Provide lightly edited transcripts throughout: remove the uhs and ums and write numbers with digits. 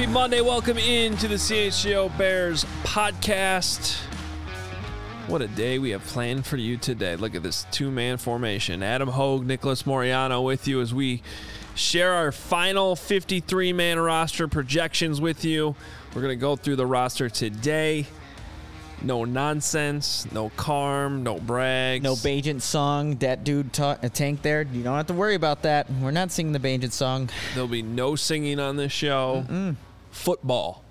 Monday. Welcome into the CHGO Bears podcast. What a day we have planned for you today. Look at this two-man formation. Adam Hogue, Nicholas Moriano with you as we share our final 53-man roster projections with you. We're going to go through the roster today. No nonsense, no Carm, no brags. No Bajent song. That dude Tank there. You don't have to worry about that. We're not singing the Bajent song. There'll be no singing on this show. Football.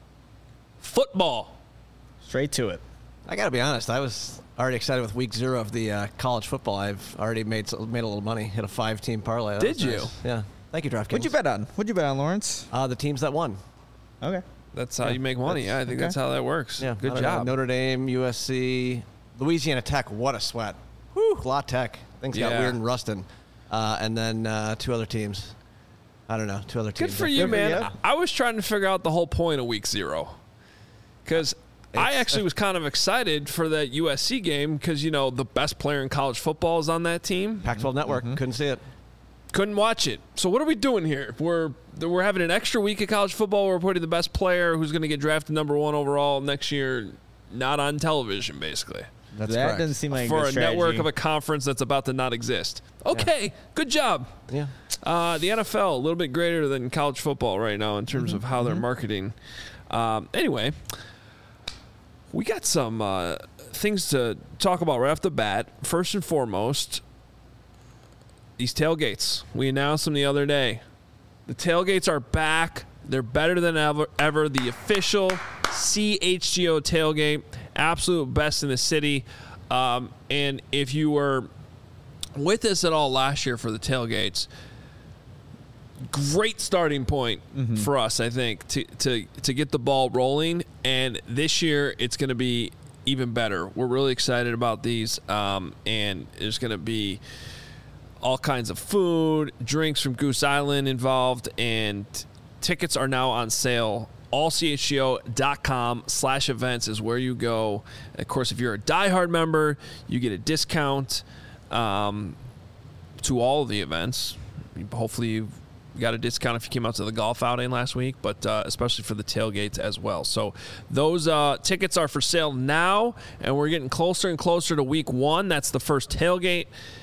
Straight to it. I got to be honest. I was already excited with week 0 of the college football. I've already made a little money. Hit a 5-team parlay. Did you? Nice. Yeah. Thank you, DraftKings. What'd you bet on, Lawrence? The teams that won. Okay. That's how you make money. Yeah, I think that's how that works. Yeah. Good job. Notre Dame, USC, Louisiana Tech. What a sweat. Whew. La Tech. Things got weird in Ruston. And then 2 other teams. I don't know. 2 other teams. Good for you, man. I was trying to figure out the whole point of week 0. Because I actually was kind of excited for that USC game because, you know, the best player in college football is on that team. Pac-12 Network. Couldn't see it. Couldn't watch it. So what are we doing here? We're having an extra week of college football. We're putting the best player who's going to get drafted number 1 overall next year not on television, basically. That's that correct. doesn't seem like for a a good strategy. network of a conference that's about to not exist. Okay, good job. Yeah. The NFL, a little bit greater than college football right now in terms of how they're marketing. Anyway, we got some things to talk about right off the bat. First and foremost, these tailgates. We announced them the other day. The tailgates are back. They're better than ever. The official CHGO tailgate, absolute best in the city. And if you were with us at all last year for the tailgates, great starting point for us, I think, to get the ball rolling. And this year, it's going to be even better. We're really excited about these, and there's going to be all kinds of food, drinks from Goose Island involved, and tickets are now on sale. allchgo.com/events is where you go. Of course, if you're a diehard member, you get a discount to all of the events. Hopefully you got a discount if you came out to the golf outing last week, but especially for the tailgates as well. So those tickets are for sale now, and we're getting closer and closer to week 1. That's the first tailgate.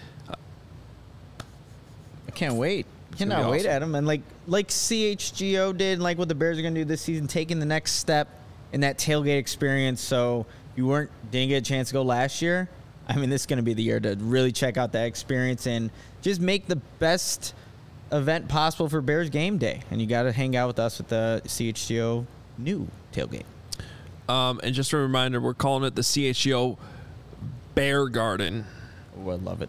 I can't wait. Cannot wait, Adam. And like CHGO did, like what the Bears are going to do this season, taking the next step in that tailgate experience. So you didn't get a chance to go last year. I mean, this is going to be the year to really check out that experience and just make the best event possible for Bears game day. And you got to hang out with us with the CHGO new tailgate. And just a reminder, we're calling it the CHGO Bear Garden. Oh, I love it.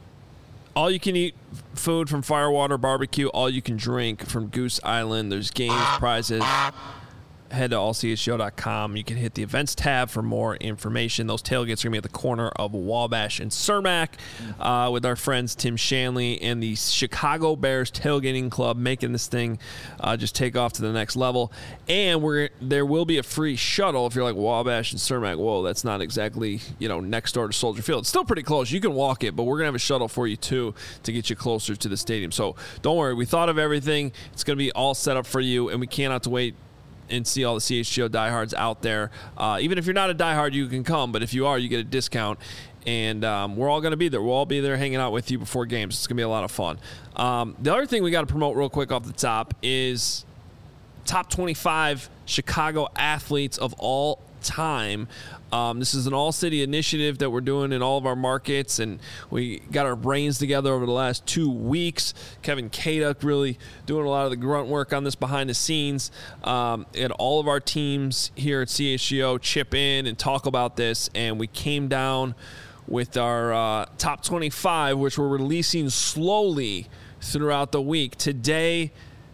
All you can eat food from Firewater Barbecue. All you can drink from Goose Island. There's games, prizes. Head to allchgo.com. You can hit the events tab for more information. Those tailgates are going to be at the corner of Wabash and Cermak with our friends Tim Shanley and the Chicago Bears Tailgating Club, making this thing just take off to the next level. And there will be a free shuttle if you're like Wabash and Cermak. Whoa, that's not exactly next door to Soldier Field. It's still pretty close. You can walk it, but we're going to have a shuttle for you too to get you closer to the stadium. So don't worry. We thought of everything. It's going to be all set up for you, and we cannot wait and see all the CHGO diehards out there. Even if you're not a diehard, you can come, but if you are, you get a discount. And we're all going to be there. We'll all be there hanging out with you before games. It's going to be a lot of fun. The other thing we got to promote real quick off the top is top 25 Chicago athletes of all time. This is an all-city initiative that we're doing in all of our markets, and we got our brains together over the last 2 weeks. Kevin Kaduk really doing a lot of the grunt work on this behind the scenes. And all of our teams here at CHGO chip in and talk about this, and we came down with our top 25, which we're releasing slowly throughout the week. Today,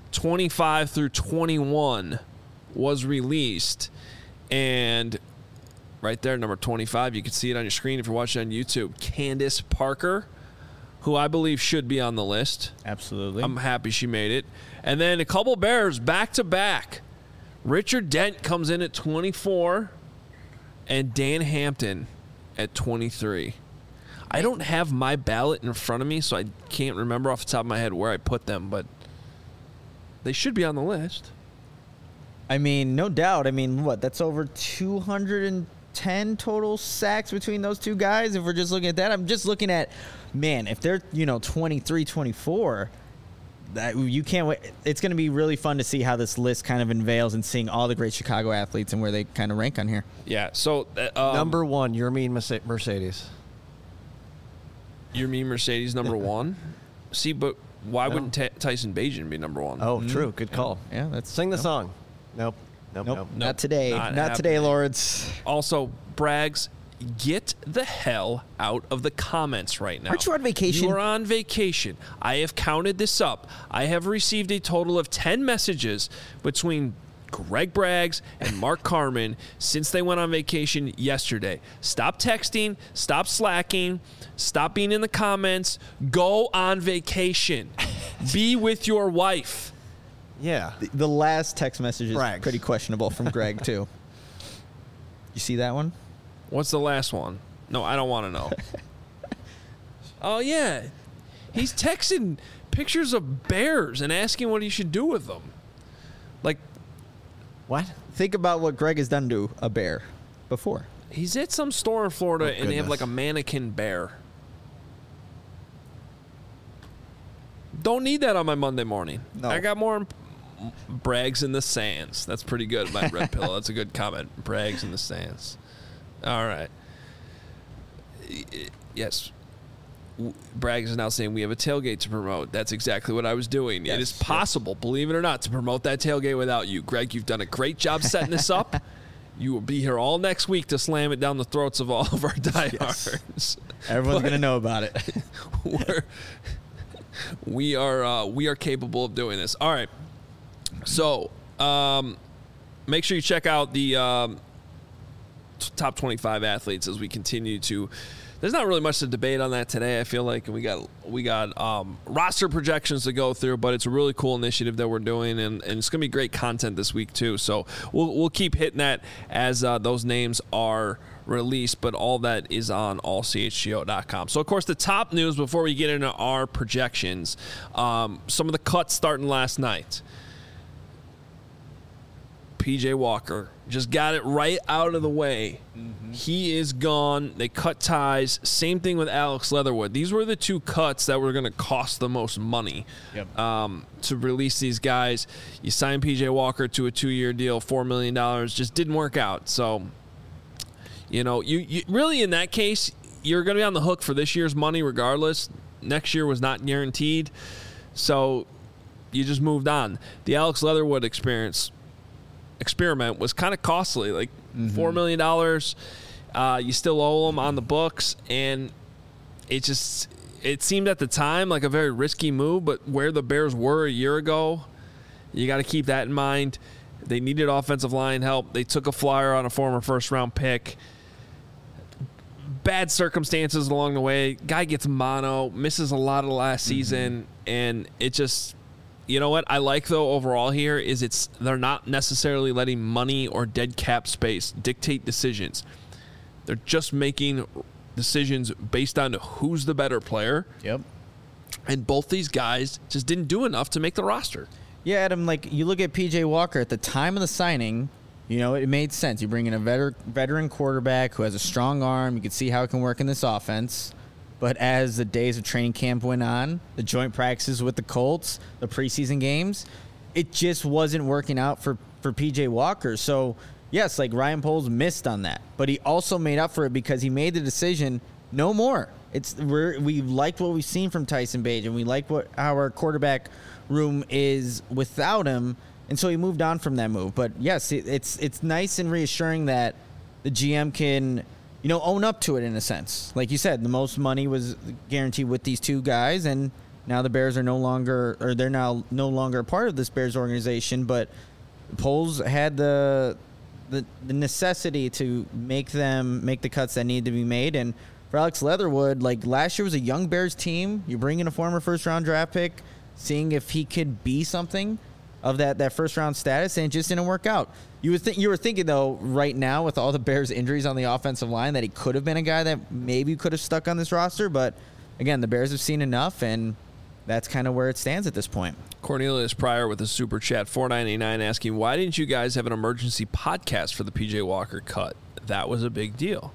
25 through 21 was released, and right there, number 25, you can see it on your screen if you're watching on YouTube. Candace Parker, who I believe should be on the list. Absolutely. I'm happy she made it. And then a couple Bears back-to-back. Richard Dent comes in at 24, and Dan Hampton at 23. I don't have my ballot in front of me, so I can't remember off the top of my head where I put them, but they should be on the list. I mean, no doubt. I mean, that's over 210 total sacks between those two guys. If we're just looking at that, I'm just looking at, man, if they're, 23, 24, that you can't wait. It's going to be really fun to see how this list kind of unveils and seeing all the great Chicago athletes and where they kind of rank on here. Yeah. So number one, your mean Mercedes. Your mean Mercedes number one. See, but why wouldn't Tyson Bagent be number one? Oh, true. Good call. Yeah, that's sing the song. Nope. Not today. Not today, Lords. Also, Braggs, get the hell out of the comments right now. Aren't you on vacation? You are on vacation. I have counted this up. I have received a total of 10 messages between Greg Braggs and Mark Carman since they went on vacation yesterday. Stop texting. Stop slacking. Stop being in the comments. Go on vacation. Be with your wife. Yeah. The last text message is Braggs. pretty questionable from Greg, too. You see that one? What's the last one? No, I don't want to know. Oh, yeah. He's texting pictures of bears and asking what he should do with them. Like, what? Think about what Greg has done to a bear before. He's at some store in Florida and they have like a mannequin bear. Don't need that on my Monday morning. No. I got more Braggs in the sands. That's pretty good, my red pillow. That's a good comment. Braggs in the sands. All right. Yes. Braggs is now saying we have a tailgate to promote. That's exactly what I was doing. Yes, it is possible, believe it or not, to promote that tailgate without you. Greg, you've done a great job setting this up. You will be here all next week to slam it down the throats of all of our diehards. Yes. Everyone's going to know about it. We are capable of doing this. All right. So, make sure you check out the top 25 athletes as we continue to. There's not really much to debate on that today. I feel like we got roster projections to go through, but it's a really cool initiative that we're doing, and it's gonna be great content this week too. So we'll keep hitting that as those names are released, but all that is on allchgo.com. So of course the top news before we get into our projections, some of the cuts starting last night. PJ Walker just got it right out of the way. Mm-hmm. He is gone. They cut ties. Same thing with Alex Leatherwood. These were the two cuts that were going to cost the most money to release these guys. You signed PJ Walker to a 2-year deal, $4 million. Just didn't work out. So, you really in that case, you're going to be on the hook for this year's money regardless. Next year was not guaranteed. So you just moved on. The Alex Leatherwood experiment was kind of costly, like $4 million. You still owe them on the books, and it seemed at the time like a very risky move, but where the Bears were a year ago, you got to keep that in mind. They needed offensive line help. They took a flyer on a former first-round pick. Bad circumstances along the way. Guy gets mono, misses a lot of the last season, and it just... You know what I like, though, overall here is they're not necessarily letting money or dead cap space dictate decisions. They're just making decisions based on who's the better player. Yep. And both these guys just didn't do enough to make the roster. Yeah, Adam, you look at PJ Walker at the time of the signing, it made sense. You bring in a veteran quarterback who has a strong arm. You could see how it can work in this offense. But as the days of training camp went on, the joint practices with the Colts, the preseason games, it just wasn't working out for PJ Walker. So, yes, Ryan Poles missed on that. But he also made up for it because he made the decision, no more. We liked what we've seen from Tyson Bagent. We like how our quarterback room is without him. And so he moved on from that move. But, yes, it's nice and reassuring that the GM can – own up to it in a sense. Like you said, the most money was guaranteed with these two guys, and now the Bears are no longer a part of this Bears organization. But Poles had the necessity to make the cuts that needed to be made. And for Alex Leatherwood, last year was a young Bears team. You bring in a former first-round draft pick, seeing if he could be something of that first-round status, and it just didn't work out. You were thinking, though, right now with all the Bears' injuries on the offensive line, that he could have been a guy that maybe could have stuck on this roster. But, again, the Bears have seen enough, and that's kind of where it stands at this point. Cornelius Pryor with a super chat, $4.99, asking, why didn't you guys have an emergency podcast for the PJ Walker cut? That was a big deal.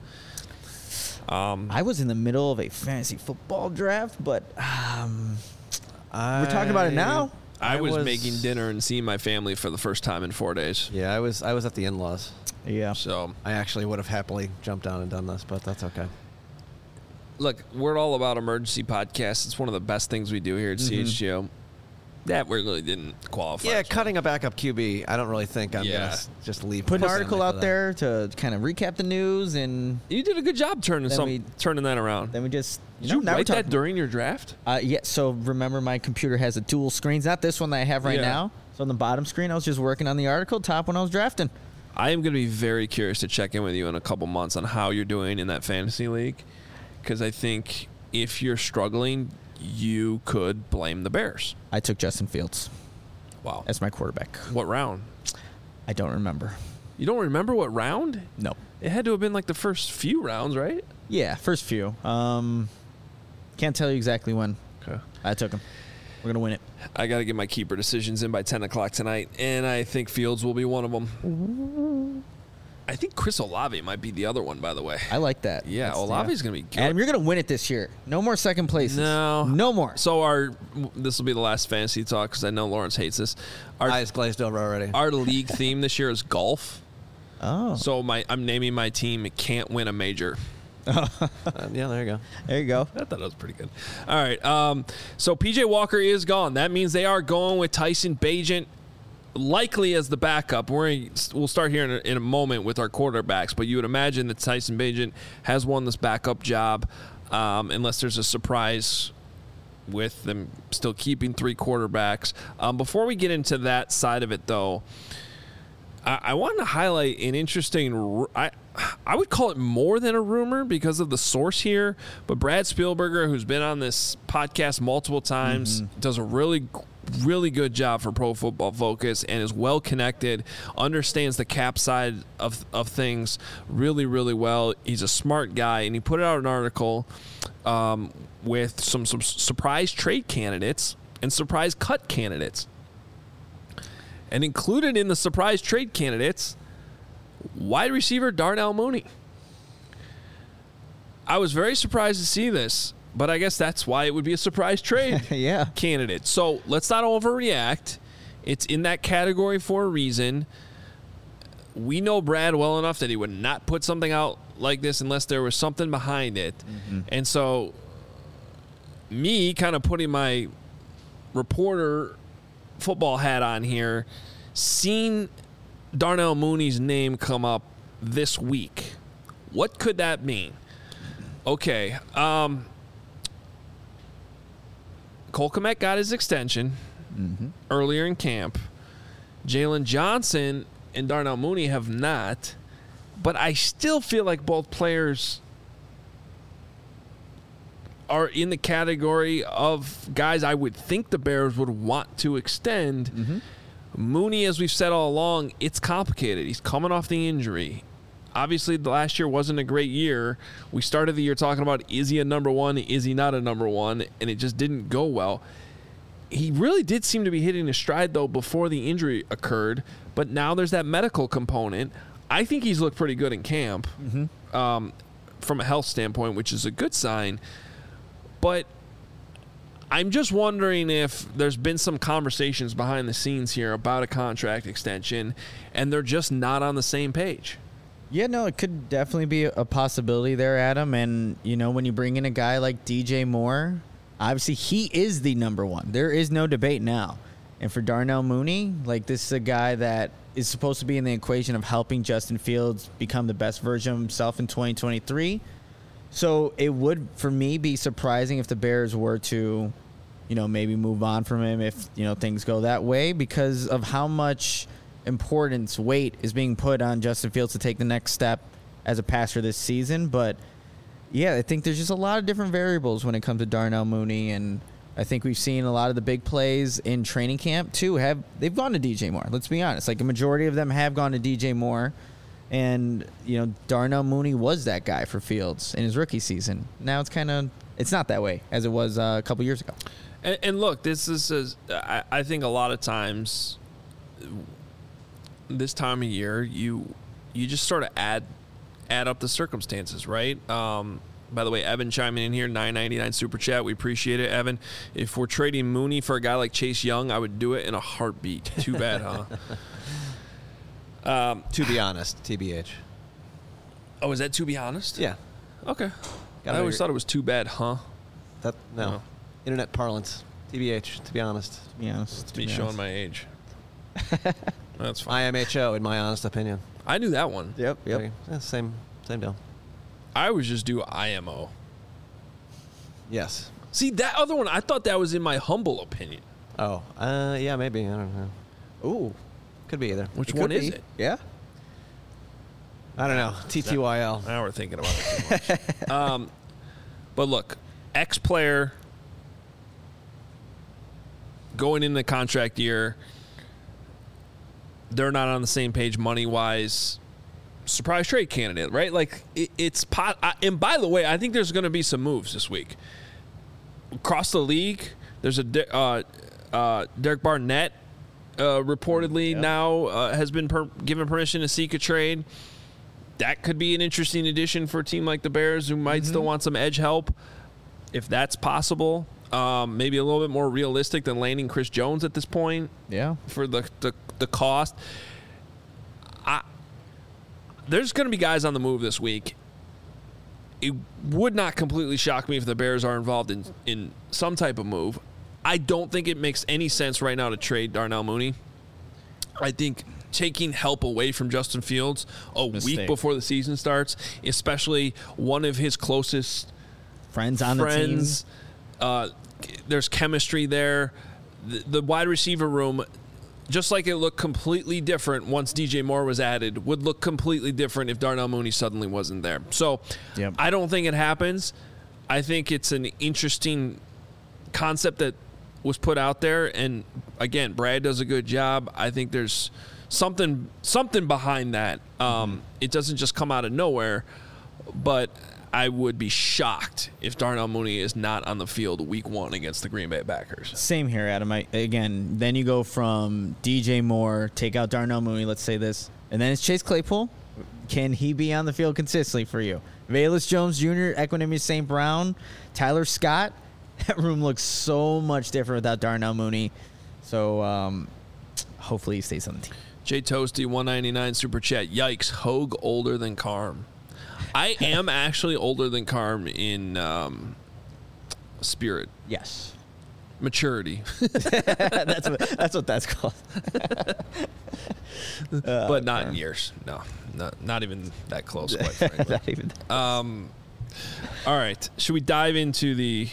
I was in the middle of a fantasy football draft, but we're talking about it now. I was making dinner and seeing my family for the first time in 4 days. Yeah, I was at the in-laws. Yeah. So I actually would have happily jumped down and done this, but that's okay. Look, we're all about emergency podcasts. It's one of the best things we do here at CHGO. That really didn't qualify. Yeah, cutting a backup QB, I don't really think I'm going to just leave. Put an article out there to kind of recap the news, and you did a good job turning that around. Then we just did you write that during your draft? Yeah. So remember, my computer has a dual screens, not this one that I have right now. So on the bottom screen, I was just working on the article. Top one, I was drafting. I am going to be very curious to check in with you in a couple months on how you're doing in that fantasy league, because I think if you're struggling, you could blame the Bears. I took Justin Fields. Wow. As my quarterback. What round? I don't remember. You don't remember what round? No. It had to have been like the first few rounds, right? Yeah, first few. Can't tell you exactly when. Okay. I took him. We're going to win it. I got to get my keeper decisions in by 10 o'clock tonight, and I think Fields will be one of them. Ooh. I think Chris Olave might be the other one, by the way. I like that. Yeah, Olave's going to be good. Adam, you're going to win it this year. No more second places. No more. So this will be the last fantasy talk because I know Lawrence hates this. Our eyes glazed over already. Our league theme this year is golf. Oh. So I'm naming my team It Can't Win a Major. Yeah, there you go. There you go. I thought that was pretty good. All right. So PJ Walker is gone. That means they are going with Tyson Bagent, likely as the backup. We'll start here in a moment with our quarterbacks, but you would imagine that Tyson Bagent has won this backup job, unless there's a surprise with them still keeping 3 quarterbacks. Before we get into that side of it, though, I want to highlight an interesting. I would call it more than a rumor because of the source here, but Brad Spielberger, who's been on this podcast multiple times, does a really good job for Pro Football Focus and is well connected, understands the cap side of things really, really well. He's a smart guy, and he put out an article with some surprise trade candidates and surprise cut candidates. And included in the surprise trade candidates, wide receiver Darnell Mooney. I was very surprised to see this, but I guess that's why it would be a surprise trade candidate. So let's not overreact. It's in that category for a reason. We know Brad well enough that he would not put something out like this unless there was something behind it. And so me kind of putting my reporter football hat on here, seeing Darnell Mooney's name come up this week. What could that mean? Okay. Cole Kmet got his extension earlier in camp. Jalen Johnson and Darnell Mooney have not. But I still feel like both players are in the category of guys I would think the Bears would want to extend. Mooney, as we've said all along, it's complicated. He's coming off the injury. Obviously, the last year wasn't a great year. We started the year talking about, is he a number one? Is he not a number one? And it just didn't go well. He really did seem to be hitting his stride, though, before the injury occurred. But now there's that medical component. I think he's looked pretty good in camp from a health standpoint, which is a good sign. But I'm just wondering if there's been some conversations behind the scenes here about a contract extension, and they're just not on the same page. Yeah, no, it could definitely be a possibility there, Adam. And, you know, when you bring in a guy like DJ Moore, obviously he is the number one. There is no debate now. And for Darnell Mooney, like, this is a guy that is supposed to be in the equation of helping Justin Fields become the best version of himself in 2023. So it would, for me, be surprising if the Bears were to, you know, maybe move on from him if, you know, things go that way, because of how much importance, weight is being put on Justin Fields to take the next step as a passer this season. But, yeah, I think there's just a lot of different variables when it comes to Darnell Mooney, and I think we've seen a lot of the big plays in training camp, too. They've gone to DJ Moore. Let's be honest. Like, a majority of them have gone to DJ Moore. And, you know, Darnell Mooney was that guy for Fields in his rookie season. Now it's not that way as it was a couple years ago. And look, this is I think a lot of times this time of year you just sort of add up the circumstances, right? By the way, Evan chiming in here, $9.99 super chat. We appreciate it, Evan. If we're trading Mooney for a guy like Chase Young, I would do it in a heartbeat. Too bad, huh? To be honest, TBH. Oh, is that to be honest? Yeah. Okay. I always thought it was too bad, huh? No. Internet parlance. TBH, to be honest. Yeah, it's me showing my age. That's fine. IMHO, in my honest opinion. I knew that one. Yep. Yeah, same deal. I always just do IMO. Yes. See, that other one, I thought that was in my humble opinion. Oh, yeah, maybe. I don't know. Ooh. Could be either. Which one is it? Yeah. I don't know. TTYL. Now we're thinking about it too much. But look, ex-player going into the contract year, they're not on the same page money-wise. Surprise trade candidate, right? Like, it's pot. And by the way, I think there's going to be some moves this week. Across the league, there's a Derek Barnett reportedly now has been given permission to seek a trade. That could be an interesting addition for a team like the Bears who might still want some edge help, if that's possible. Maybe a little bit more realistic than landing Chris Jones at this point. Yeah. For the cost. There's going to be guys on the move this week. It would not completely shock me if the Bears are involved in some type of move. I don't think it makes any sense right now to trade Darnell Mooney. I think taking help away from Justin Fields week before the season starts, especially one of his closest friends on the team. There's chemistry there. The wide receiver room, just like it looked completely different once DJ Moore was added, would look completely different if Darnell Mooney suddenly wasn't there. So I don't think it happens. I think it's an interesting concept that was put out there. And, again, Brad does a good job. I think there's something behind that. It doesn't just come out of nowhere, but I would be shocked if Darnell Mooney is not on the field week 1 against the Green Bay Packers. Same here, Adam. Then you go from DJ Moore, take out Darnell Mooney, let's say this, and then it's Chase Claypool. Can he be on the field consistently for you? Velus Jones Jr., Equanimous St. Brown, Tyler Scott. That room looks so much different without Darnell Mooney. So hopefully he stays on the team. Jay Toasty, $1.99 super chat. Yikes, Hogue older than Carm. I am actually older than Carm in spirit. Yes. Maturity. that's what that's called. But not in years. No, not even that close, quite frankly. Not even that. All right. Should we dive into the...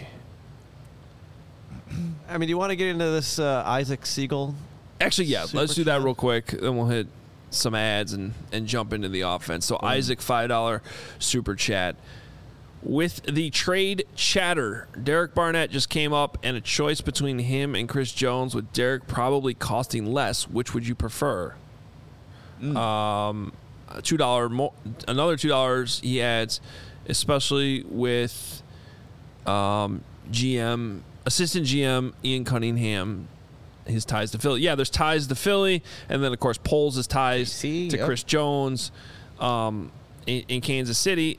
I mean, do you want to get into this Isaac Siegel? Actually, yeah. Let's do that real quick. Then we'll hit some ads and jump into the offense. So Isaac, $5 super chat. With the trade chatter, Derek Barnett just came up, and a choice between him and Chris Jones, with Derek probably costing less. Which would you prefer? $2 more, another $2 he adds, especially with assistant GM Ian Cunningham, his ties to Philly. Yeah, there's ties to Philly, and then of course Poles' ties to Chris Jones in Kansas City.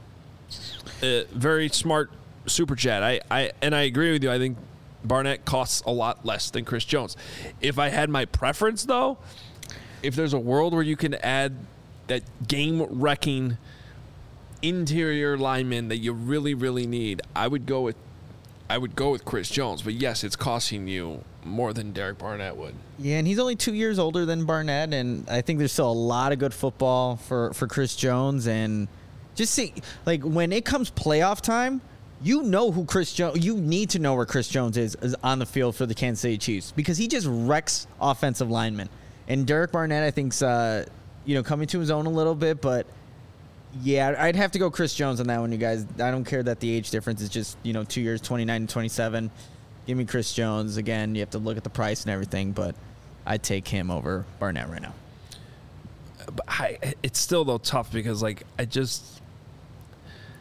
Very smart super chat. I agree with you. I think Barnett costs a lot less than Chris Jones. If I had my preference, though, if there's a world where you can add that game-wrecking interior lineman that you really, really need, I would go with Chris Jones. But yes, it's costing you more than Derek Barnett would. Yeah, and he's only 2 years older than Barnett, and I think there's still a lot of good football for Chris Jones. And just see, like, when it comes playoff time, you know who Chris Jones. You need to know where Chris Jones is on the field for the Kansas City Chiefs, because he just wrecks offensive linemen. And Derek Barnett, I think's coming to his own a little bit, but yeah, I'd have to go Chris Jones on that one, you guys. I don't care that the age difference is just 2 years, 29 and 27. Give me Chris Jones. Again, you have to look at the price and everything, but I'd take him over Barnett right now. But it's still though tough because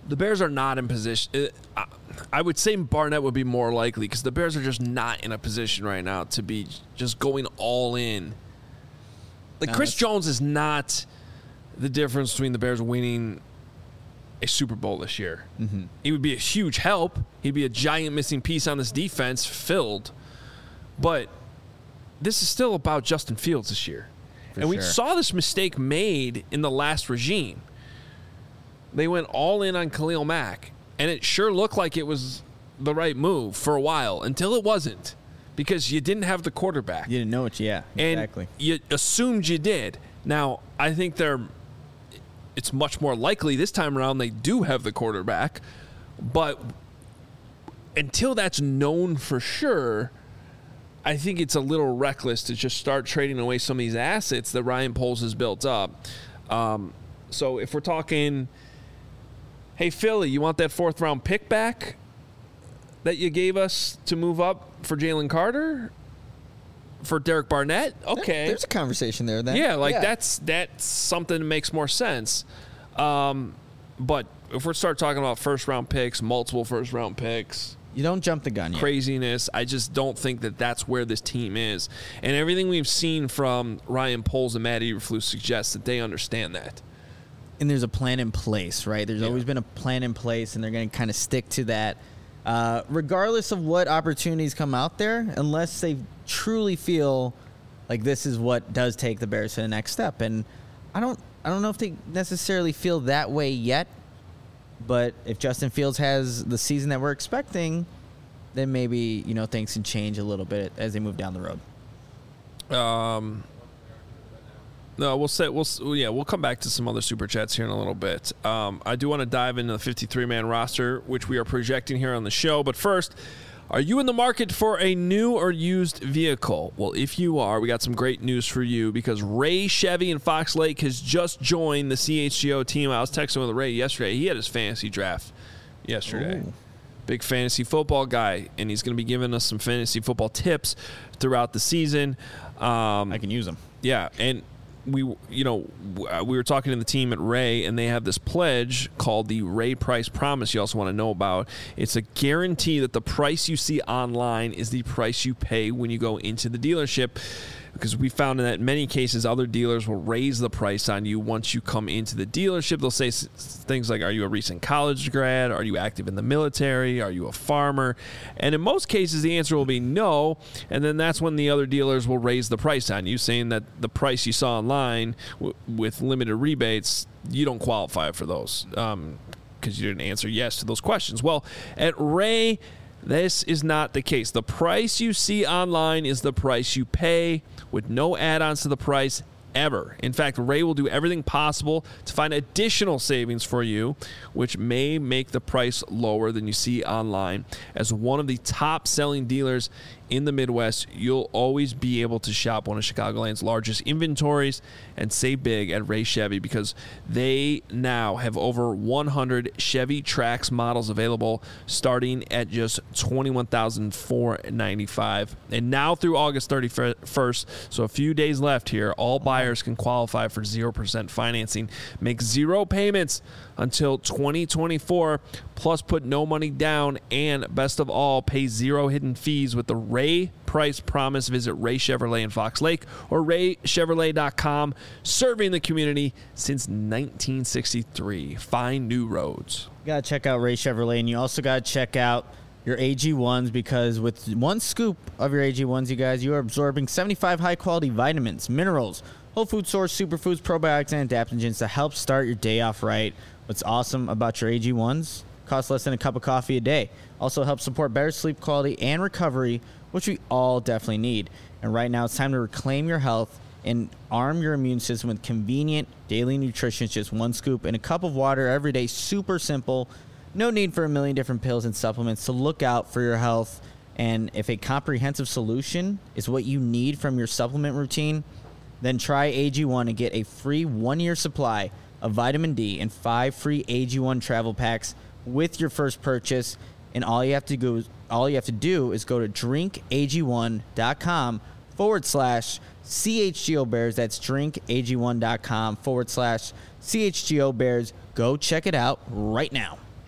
The Bears are not in position. I would say Barnett would be more likely because the Bears are just not in a position right now to be just going all in. Like, Chris Jones is not the difference between the Bears winning a Super Bowl this year. Mm-hmm. He would be a huge help. He'd be a giant missing piece on this defense filled. But this is still about Justin Fields this year. We saw this mistake made in the last regime. They went all in on Khalil Mack, and it sure looked like it was the right move for a while until it wasn't because you didn't have the quarterback. You didn't know it, yeah, exactly. And you assumed you did. Now, I think it's much more likely this time around they do have the quarterback, but until that's known for sure, I think it's a little reckless to just start trading away some of these assets that Ryan Poles has built up. So if we're talking, hey, Philly, you want that 4th-round pick back that you gave us to move up for Jalen Carter? For Derek Barnett? Okay. There's a conversation there then. Yeah, that's something that makes more sense. But if we start talking about first-round picks, multiple first-round picks, you don't jump the gun yet. Craziness. I just don't think that that's where this team is. And everything we've seen from Ryan Poles and Matt Eberflus suggests that they understand that. And there's a plan in place, right? There's always been a plan in place, and they're going to kind of stick to that. Regardless of what opportunities come out there, unless they truly feel like this is what does take the Bears to the next step. And I don't know if they necessarily feel that way yet, but if Justin Fields has the season that we're expecting, then maybe, things can change a little bit as they move down the road. No, we'll come back to some other super chats here in a little bit. I do want to dive into the 53-man roster, which we are projecting here on the show. But first, are you in the market for a new or used vehicle? Well, if you are, we got some great news for you because Ray Chevy in Fox Lake has just joined the CHGO team. I was texting with Ray yesterday. He had his fantasy draft yesterday. Ooh. Big fantasy football guy, and he's going to be giving us some fantasy football tips throughout the season. I can use them. Yeah, and we were talking to the team at Ray, and they have this pledge called the Ray Price Promise you also want to know about. It's a guarantee that the price you see online is the price you pay when you go into the dealership, because we found that in many cases other dealers will raise the price on you once you come into the dealership. They'll say things like, are you a recent college grad? Are you active in the military? Are you a farmer? And in most cases, the answer will be no. And then that's when the other dealers will raise the price on you, saying that the price you saw online with limited rebates, you don't qualify for those because you didn't answer yes to those questions. Well, at Ray, this is not the case. The price you see online is the price you pay, with no add-ons to the price ever. In fact, Ray will do everything possible to find additional savings for you, which may make the price lower than you see online. As one of the top-selling dealers in the Midwest, you'll always be able to shop one of Chicagoland's largest inventories and save big at Ray Chevy, because they now have over 100 Chevy Trax models available, starting at just $21,495. And now through August 31st, so a few days left here, all buyers can qualify for 0% financing, make 0 payments until 2024, plus put no money down, and best of all, pay 0 hidden fees with the Ray Price Promise. Visit Ray Chevrolet in Fox Lake or raychevrolet.com, serving the community since 1963. Find new roads. You got to check out Ray Chevrolet, and you also got to check out your AG1s, because with one scoop of your AG1s, you guys, you are absorbing 75 high-quality vitamins, minerals, whole food source, superfoods, probiotics, and adaptogens to help start your day off right. What's awesome about your AG1s, costs less than a cup of coffee a day. Also helps support better sleep quality and recovery, which we all definitely need. And right now, it's time to reclaim your health and arm your immune system with convenient daily nutrition. It's just one scoop in a cup of water every day. Super simple. No need for a million different pills and supplements to look out for your health. And if a comprehensive solution is what you need from your supplement routine, then try AG1 and get a free 1-year supply of vitamin D and 5 free AG1 travel packs with your first purchase. And all you have to do is go to drinkag1.com/CHGO Bears. That's drinkag1.com/CHGO Bears. Go check it out right now.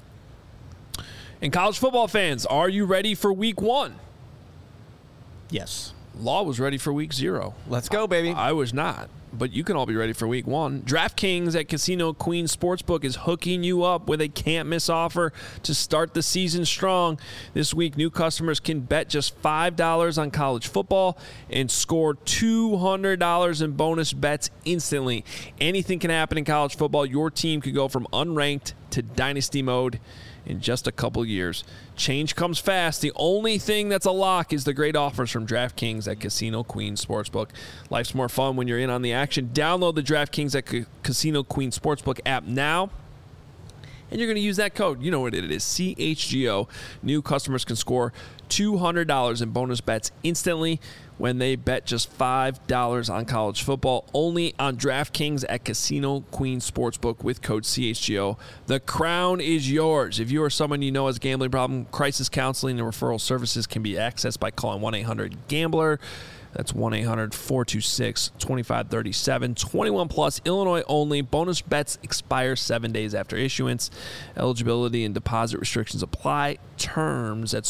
And college football fans, are you ready for week 1? Yes. Law was ready for week 0. Let's go, baby. I was not, but you can all be ready for week 1. DraftKings at Casino Queen Sportsbook is hooking you up with a can't-miss offer to start the season strong. This week, new customers can bet just $5 on college football and score $200 in bonus bets instantly. Anything can happen in college football. Your team could go from unranked to dynasty mode in just a couple years. Change comes fast. The only thing that's a lock is the great offers from DraftKings at Casino Queen Sportsbook. Life's more fun when you're in on the action. Download the DraftKings at Casino Queen Sportsbook app now, and you're going to use that code. You know what it is, CHGO. New customers can score $200 in bonus bets instantly when they bet just $5 on college football, only on DraftKings at Casino Queen Sportsbook with code CHGO. The crown is yours. If you or someone you know has a gambling problem, crisis counseling and referral services can be accessed by calling 1-800-GAMBLER. That's 1-800-426-2537. 21 plus, Illinois only. Bonus bets expire 7 days after issuance. Eligibility and deposit restrictions apply. Terms at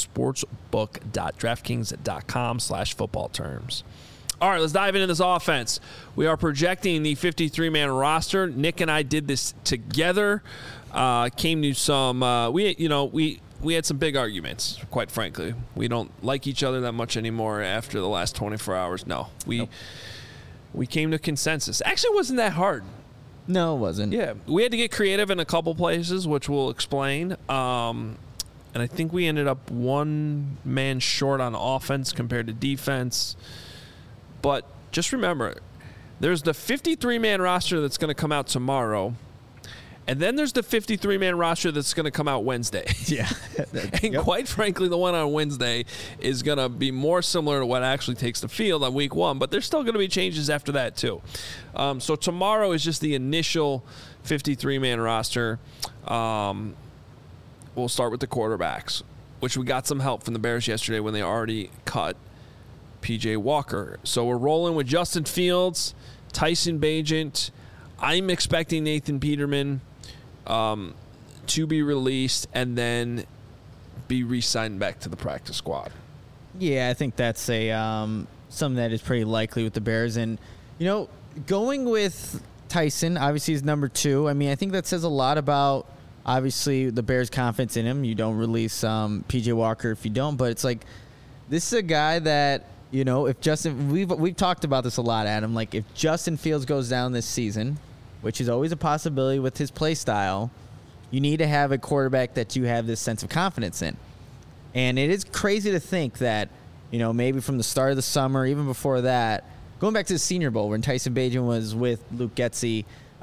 sportsbook.draftkings.com/football terms. All right, let's dive into this offense. We are projecting the 53-man roster. Nick and I did this together. Came to some we had some big arguments, quite frankly. We don't like each other that much anymore after the last 24 hours. No, we came to consensus. Actually, it wasn't that hard. No, it wasn't. Yeah, we had to get creative in a couple places, which we'll explain. And I think we ended up one man short on offense compared to defense. But just remember, there's the 53-man roster that's going to come out tomorrow. And then there's the 53-man roster that's going to come out Wednesday. Yeah. And quite frankly, the one on Wednesday is going to be more similar to what actually takes the field on week 1. But there's still going to be changes after that, too. So tomorrow is just the initial 53-man roster. We'll start with the quarterbacks, which we got some help from the Bears yesterday when they already cut P.J. Walker. So we're rolling with Justin Fields, Tyson Bagent. I'm expecting Nathan Peterman to be released and then be re-signed back to the practice squad. Yeah, I think that's a something that is pretty likely with the Bears. And, going with Tyson, obviously, is number 2. I mean, I think that says a lot about, obviously, the Bears' confidence in him. You don't release P.J. Walker if you don't. But it's like, this is a guy that, if Justin – we've talked about this a lot, Adam. Like, if Justin Fields goes down this season, which is always a possibility with his play style, you need to have a quarterback that you have this sense of confidence in. And it is crazy to think that, maybe from the start of the summer, even before that, going back to the Senior Bowl when Tyson Bagent was with Luke Getsy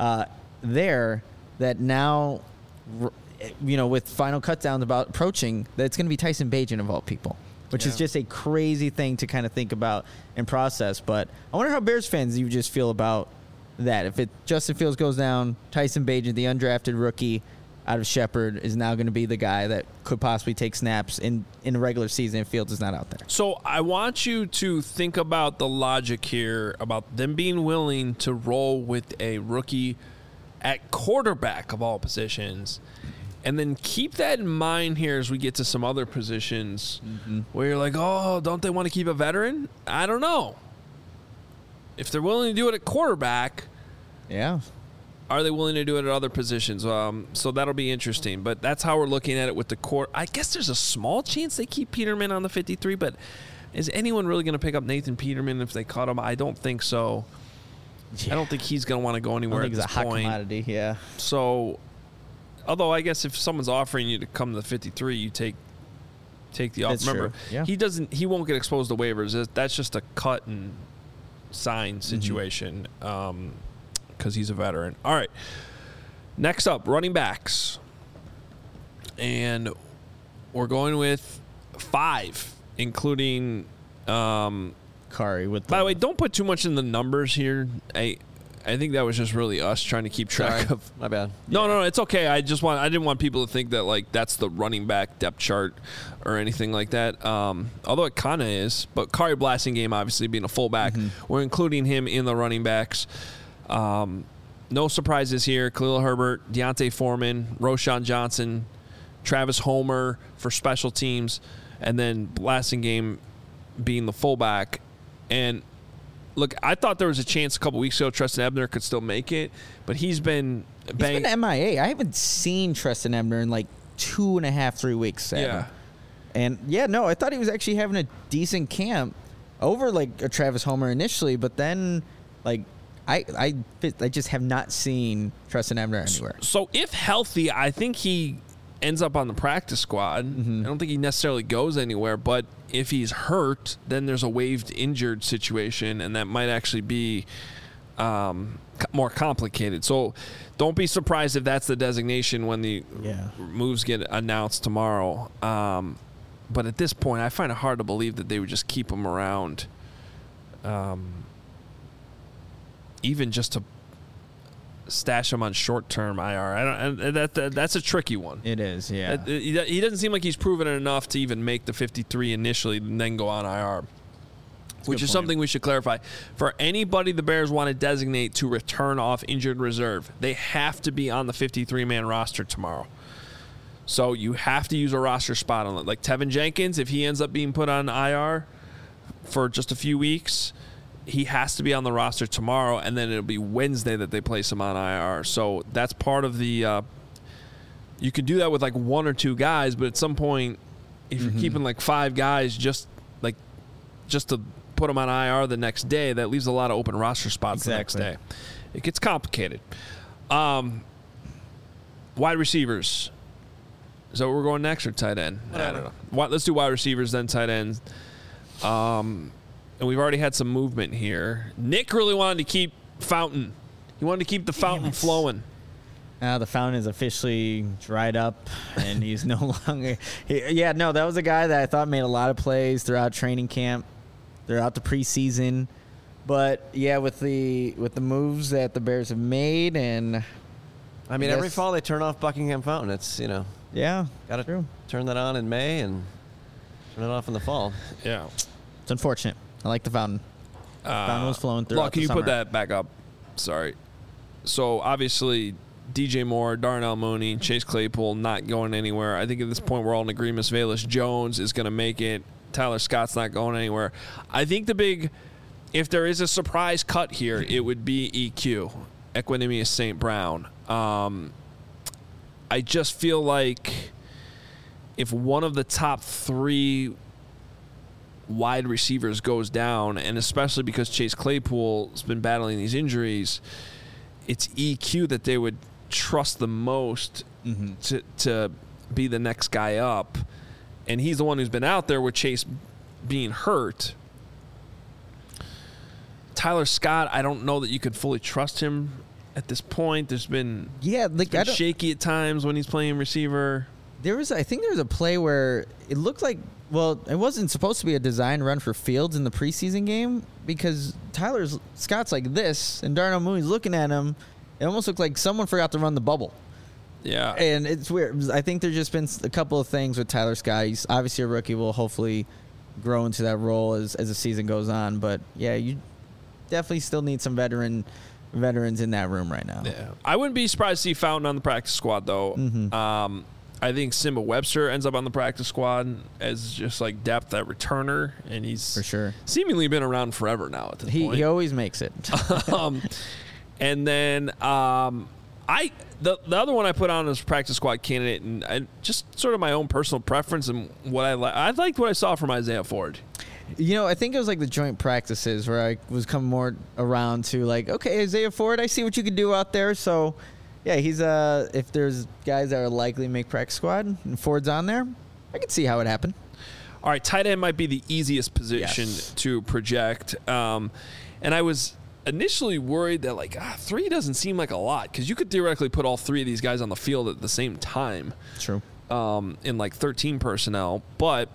that now, with final cutdowns about approaching, that it's going to be Tyson Bagent of all people, which is just a crazy thing to kind of think about and process. But I wonder how Bears fans you just feel about that. If Justin Fields goes down, Tyson Bagent, the undrafted rookie out of Shepherd, is now going to be the guy that could possibly take snaps in a regular season if Fields is not out there. So I want you to think about the logic here about them being willing to roll with a rookie at quarterback of all positions. And then keep that in mind here as we get to some other positions where you're like, oh, don't they want to keep a veteran? I don't know. If they're willing to do it at quarterback, are they willing to do it at other positions? So that'll be interesting. But that's how we're looking at it with the core. I guess there's a small chance they keep Peterman on the 53, but is anyone really going to pick up Nathan Peterman if they cut him? I don't think so. Yeah. I don't think he's going to want to go anywhere at this point. I think he's a hot commodity, yeah. So, although I guess if someone's offering you to come to the 53, you take the offer. Remember, he won't get exposed to waivers. That's just a cut and sign situation because he's a veteran. All right. Next up, running backs. And we're going with 5, including Kari. By the way, don't put too much in the numbers here. I think that was just really us trying to keep track of. My bad. No, it's okay. I didn't want people to think that like that's the running back depth chart or anything like that. Although it kind of is. But Kari Blasingame obviously being a fullback, we're including him in the running backs. No surprises here. Khalil Herbert, Deontay Foreman, Roschon Johnson, Travis Homer for special teams, and then Blasingame being the fullback. And look, I thought there was a chance a couple weeks ago Trestan Ebner could still make it, but he's been MIA. I haven't seen Trestan Ebner in like 2.5, 3 weeks. Yeah. And I thought he was actually having a decent camp over like a Travis Homer initially, but then like I just have not seen Trestan Ebner anywhere. So if healthy, I think he ends up on the practice squad. I don't think he necessarily goes anywhere, but if he's hurt, then there's a waived injured situation, and that might actually be more complicated. So don't be surprised if that's the designation when the moves get announced tomorrow. But at this point, I find it hard to believe that they would just keep him around, even just to stash him on short-term IR. That's a tricky one. It is, yeah. He doesn't seem like he's proven it enough to even make the 53 initially and then go on IR, which is something we should clarify. For anybody the Bears want to designate to return off injured reserve, they have to be on the 53-man roster tomorrow. So you have to use a roster spot on it. Like Tevin Jenkins, if he ends up being put on IR for just a few weeks, he has to be on the roster tomorrow, and then it'll be Wednesday that they place him on IR. So that's part of the you could do that with like 1 or 2 guys, but at some point, if you're keeping like 5 guys just to put them on IR the next day, that leaves a lot of open roster spots the next day. It gets complicated. Wide receivers. Is that where we're going next, or tight end? I don't know. Let's do wide receivers, then tight ends. And we've already had some movement here. Nick really wanted to keep Fountain. He wanted to keep the fountain flowing. The fountain is officially dried up, and he's no longer. That was a guy that I thought made a lot of plays throughout training camp, throughout the preseason. But with the moves that the Bears have made, and every fall they turn off Buckingham Fountain. It's got to turn that on in May and turn it off in the fall. Yeah, it's unfortunate. I like the fountain. The fountain was flowing through. Can you put that back up? Sorry. So obviously, DJ Moore, Darnell Mooney, Chase Claypool not going anywhere. I think at this point we're all in agreement. Velus Jones is going to make it. Tyler Scott's not going anywhere. I think if there is a surprise cut here, it would be EQ, Equanimeous St. Brown. I just feel like if one of the top 3 wide receivers goes down, and especially because Chase Claypool's been battling these injuries, it's EQ that they would trust the most to be the next guy up. And he's the one who's been out there with Chase being hurt. Tyler Scott, I don't know that you could fully trust him at this point. There's been shaky at times when he's playing receiver. I think there was a play where it looked like, it wasn't supposed to be a design run for Fields in the preseason game, because Tyler Scott's like this, and Darnell Mooney's looking at him. It almost looked like someone forgot to run the bubble. Yeah. And it's weird. I think there's just been a couple of things with Tyler Scott. He's obviously a rookie, will hopefully grow into that role as the season goes on. But, you definitely still need some veterans in that room right now. Yeah. I wouldn't be surprised to see Fountain on the practice squad, though. I think Simba Webster ends up on the practice squad as just like depth at returner, and he's for sure seemingly been around forever now at this point. He always makes it. And then the other one I put on as practice squad candidate, and I just sort of my own personal preference and what I liked what I saw from Isaiah Ford. I think it was like the joint practices where I was coming more around to like, okay, Isaiah Ford, I see what you can do out there. So, he's if there's guys that are likely to make practice squad and Ford's on there, I can see how it happened. All right, tight end might be the easiest position to project. And I was initially worried that 3 doesn't seem like a lot, because you could theoretically put all 3 of these guys on the field at the same time. True. In 13 personnel, but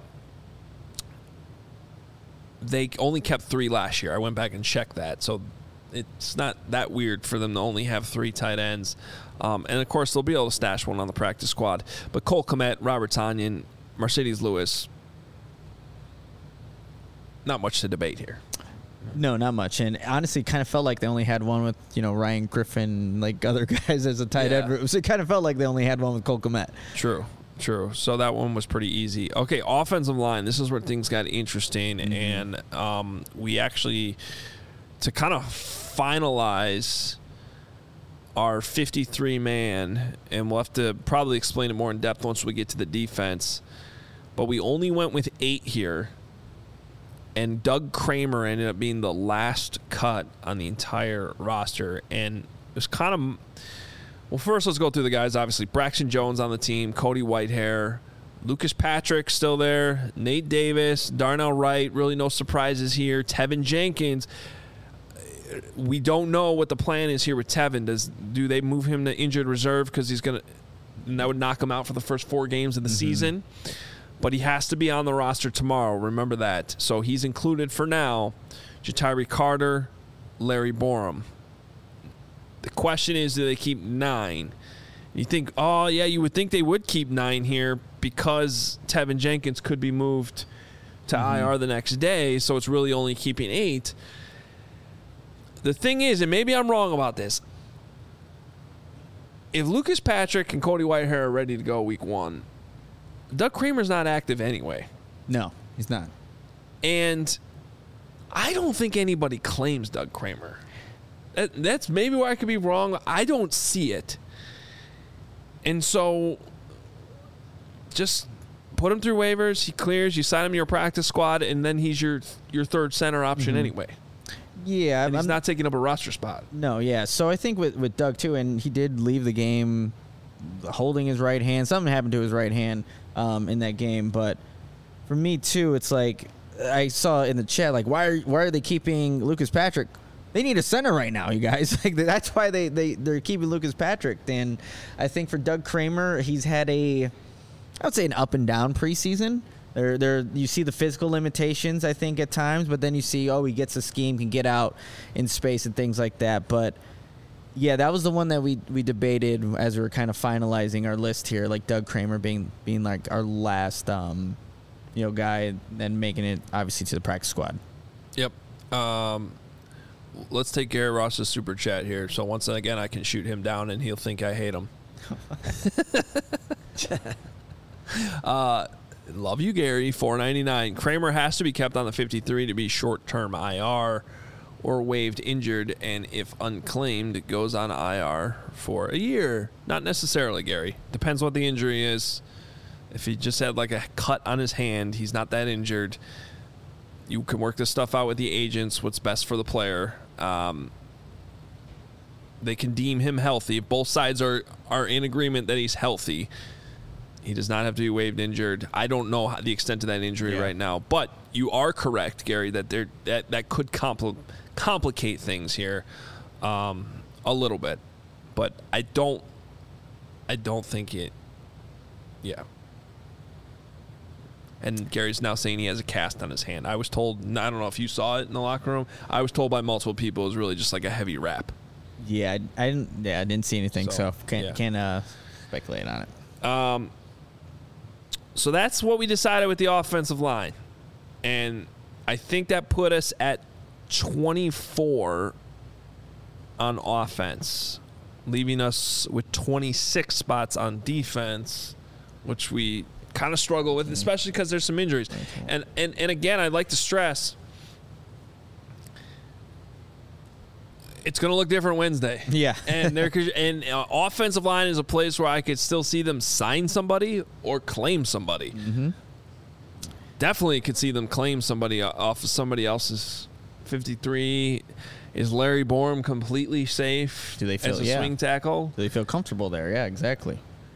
they only kept 3 last year. I went back and checked that, so it's not that weird for them to only have 3 tight ends. And, of course, they'll be able to stash one on the practice squad. But Cole Kmet, Robert Tonyan, Mercedes Lewis, not much to debate here. No, not much. And honestly, kind of felt like they only had one with, Ryan Griffin, other guys as a tight end. So it kind of felt like they only had one with Cole Kmet. True. True. So that one was pretty easy. Okay, offensive line. This is where things got interesting, and we actually, to kind of finalize our 53-man, and we'll have to probably explain it more in depth once we get to the defense, but we only went with 8 here, and Doug Kramer ended up being the last cut on the entire roster, and it was kind of... Well, first, let's go through the guys. Obviously, Braxton Jones on the team, Cody Whitehair, Lucas Patrick still there, Nate Davis, Darnell Wright, really no surprises here, Tevin Jenkins. We don't know what the plan is here with Tevin. Do they move him to injured reserve because that would knock him out for the first 4 games of the season? But he has to be on the roster tomorrow. Remember that. So he's included for now. Jatiri Carter, Larry Borum. The question is, do they keep 9? You think, oh, yeah, you would think they would keep 9 here because Tevin Jenkins could be moved to IR the next day, so it's really only keeping 8. The thing is, and maybe I'm wrong about this, if Lucas Patrick and Cody Whitehair are ready to go week 1, Doug Kramer's not active anyway. No, he's not. And I don't think anybody claims Doug Kramer. That's maybe where I could be wrong. I don't see it. And so just put him through waivers. He clears. You sign him to your practice squad, and then he's your third center option anyway. Yeah. And he's not taking up a roster spot. No, yeah. So I think with Doug, too, and he did leave the game holding his right hand. Something happened to his right hand in that game. But for me, too, it's like I saw in the chat, like, why are they keeping Lucas Patrick? They need a center right now, you guys. Like that's why they're keeping Lucas Patrick. And I think for Doug Kramer, he's had I would say an up and down preseason. You see the physical limitations, I think, at times, but then you see, he gets a scheme, can get out in space and things like that. But yeah, that was the one that we debated as we were kind of finalizing our list here, like Doug Kramer being like our last guy, and making it obviously to the practice squad. Yep. Let's take Gary Ross's super chat here. So once again, I can shoot him down and he'll think I hate him. Love you, Gary. $4.99. Kramer has to be kept on the 53 to be short-term IR or waived injured, and if unclaimed, it goes on IR for a year. Not necessarily, Gary. Depends what the injury is. If he just had like a cut on his hand, he's not that injured. You can work this stuff out with the agents, what's best for the player. They can deem him healthy. If both sides are in agreement that he's healthy, he does not have to be waived injured. I don't know the extent of that injury right now, but you are correct, Gary, that that could complicate things here a little bit. But I don't think it. Yeah. And Gary's now saying he has a cast on his hand. I was told, I don't know if you saw it in the locker room, I was told by multiple people it was really just like a heavy wrap. Yeah, I didn't see anything, so can't speculate on it. So that's what we decided with the offensive line. And I think that put us at 24 on offense, leaving us with 26 spots on defense, which we kind of struggle with, especially because there's some injuries. And again, I'd like to stress, it's going to look different Wednesday. Yeah. And offensive line is a place where I could still see them sign somebody or claim somebody. Mm-hmm. Definitely could see them claim somebody off of somebody else's 53. Is Larry Borum completely safe as a swing tackle? Do they feel comfortable there? Yeah, exactly.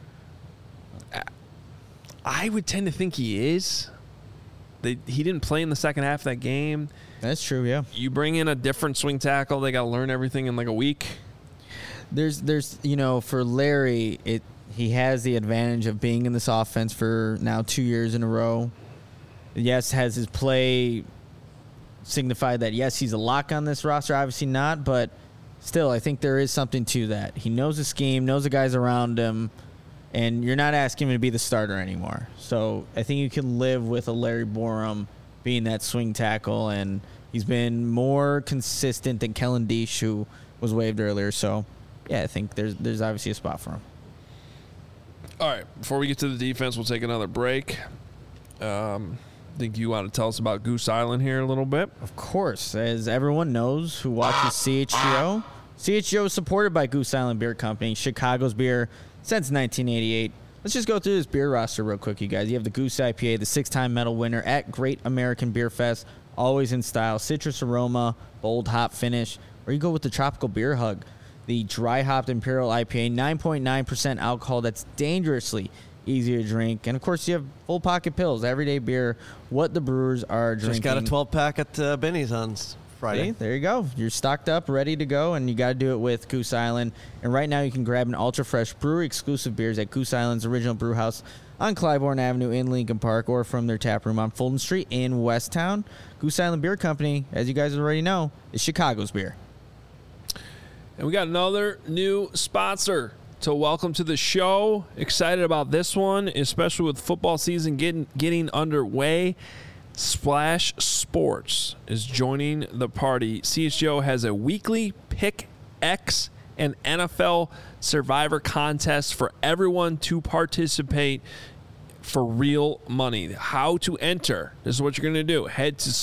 I would tend to think he is. He didn't play in the second half of that game. That's true, yeah. You bring in a different swing tackle, they got to learn everything in like a week. There's for Larry, he has the advantage of being in this offense for now 2 years in a row. Yes, has his play signified that, yes, he's a lock on this roster? Obviously not, but still, I think there is something to that. He knows the scheme, knows the guys around him, and you're not asking him to be the starter anymore. So I think you can live with a Larry Borum being that swing tackle, and he's been more consistent than Kellen Deesh, who was waived earlier. So, yeah, I think there's obviously a spot for him. All right, before we get to the defense, we'll take another break. Think you want to tell us about Goose Island here a little bit? Of course. As everyone knows who watches CHGO, CHGO is supported by Goose Island Beer Company, Chicago's beer since 1988. Let's just go through this beer roster real quick, you guys. You have the Goose IPA, the 6-time medal winner at Great American Beer Fest, always in style, citrus aroma, bold hop finish. Or you go with the Tropical Beer Hug, the dry hopped Imperial IPA, 9.9% alcohol that's dangerously easy to drink. And, of course, you have Full Pocket Pills, everyday beer, what the brewers are drinking. Just got a 12-pack at Benny's on Friday. See, there you go. You're stocked up, ready to go, and you got to do it with Goose Island. And right now you can grab an ultra-fresh brewery-exclusive beers at Goose Island's original brew house on Clybourne Avenue in Lincoln Park, or from their tap room on Fulton Street in Westtown. Goose Island Beer Company, as you guys already know, is Chicago's beer. And we got another new sponsor to welcome to the show. Excited about this one, especially with football season getting underway. Splash Sports is joining the party. CHGO has a weekly Pick X and NFL Survivor contest for everyone to participate for real money. How to enter. This is what you're going to do. Head to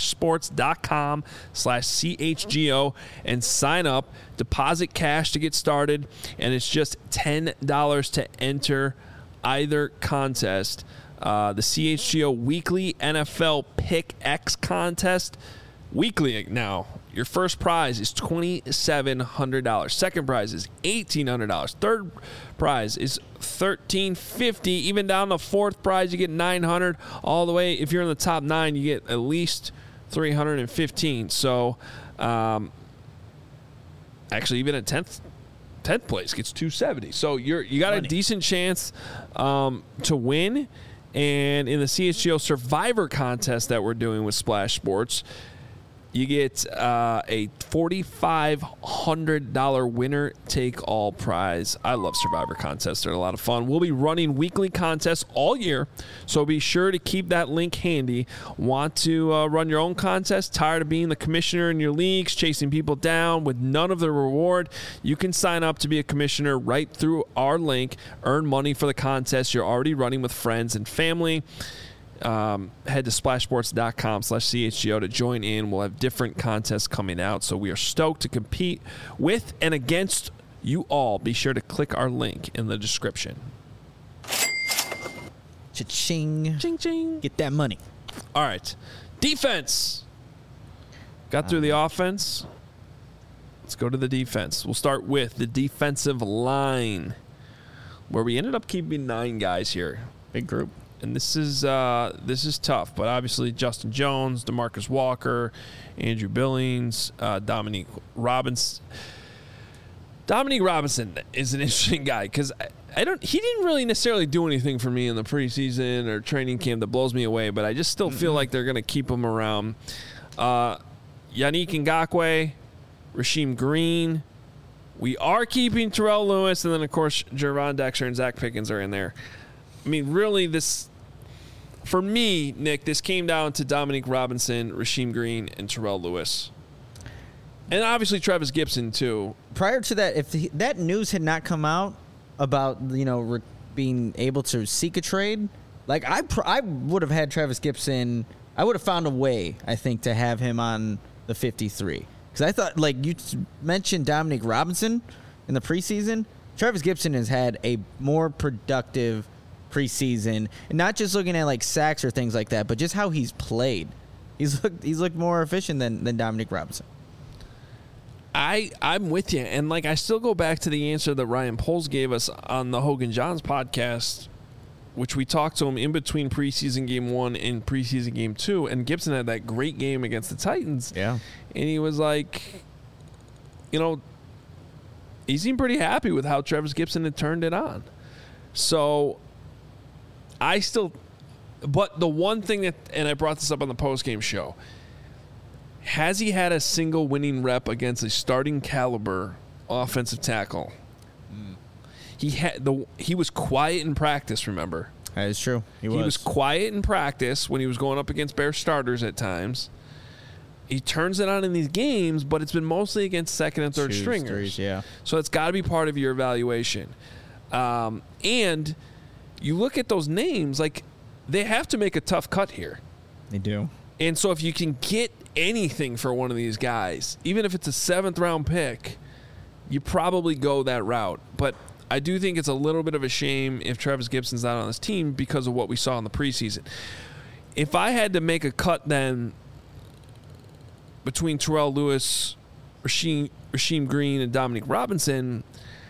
splashsports.com/CHGO and sign up. Deposit cash to get started, and it's just $10 to enter either contest. The CHGO Weekly NFL Pick X contest. Weekly now. Your first prize is $2,700. Second prize is $1,800. Third prize is $1,350. Even down to fourth prize, you get $900. All the way, if you're in the top 9, you get at least $315. So, actually, even at 10th place gets $270. So you got a decent chance to win. And in the CHGO Survivor contest that we're doing with Splash Sports, you get a $4,500 winner-take-all prize. I love Survivor contests. They're a lot of fun. We'll be running weekly contests all year, so be sure to keep that link handy. Want to run your own contest? Tired of being the commissioner in your leagues, chasing people down with none of the reward? You can sign up to be a commissioner right through our link. Earn money for the contest you're already running with friends and family. Head to splashsports.com/CHGO to join in. We'll have different contests coming out, so we are stoked to compete with and against you all. Be sure to click our link in the description. Cha-ching. Ching, ching. Get that money. All right. Defense. Got through the offense. Let's go to the defense. We'll start with the defensive line, where we ended up keeping 9 guys here. Big group. And this is tough, but obviously Justin Jones, DeMarcus Walker, Andrew Billings, Dominique Robinson. Dominique Robinson is an interesting guy because he didn't really necessarily do anything for me in the preseason or training camp that blows me away, but I just still feel like they're going to keep him around. Yannick Ngakoue, Rasheem Green. We are keeping Terrell Lewis, and then, of course, Gervon Dexter and Zach Pickens are in there. I mean, really, for me, Nick, this came down to Dominique Robinson, Rasheem Green, and Terrell Lewis. And obviously Travis Gibson, too. Prior to that, if that news had not come out about, being able to seek a trade, like I would have had Travis Gibson. I would have found a way, I think, to have him on the 53. Because I thought, like you mentioned Dominique Robinson in the preseason, Travis Gibson has had a more productive preseason, and not just looking at like sacks or things like that, but just how he's played. He's looked more efficient than Dominique Robinson. I'm with you, and like I still go back to the answer that Ryan Poles gave us on the Hogan Johns podcast, which we talked to him in between preseason game 1 and preseason game 2, and Gibson had that great game against the Titans. Yeah, and he was like, he seemed pretty happy with how Travis Gibson had turned it on. So but the one thing and I brought this up on the postgame show, has he had a single winning rep against a starting caliber offensive tackle? He was quiet in practice, remember? That is true. He was quiet in practice when he was going up against Bears starters at times. He turns it on in these games, but it's been mostly against second and third stringers. Yeah. So it's got to be part of your evaluation. And you look at those names, like, they have to make a tough cut here. They do. And so if you can get anything for one of these guys, even if it's a 7th-round pick, you probably go that route. But I do think it's a little bit of a shame if Travis Gibson's not on this team because of what we saw in the preseason. If I had to make a cut then between Terrell Lewis, Rasheem Green, and Dominique Robinson,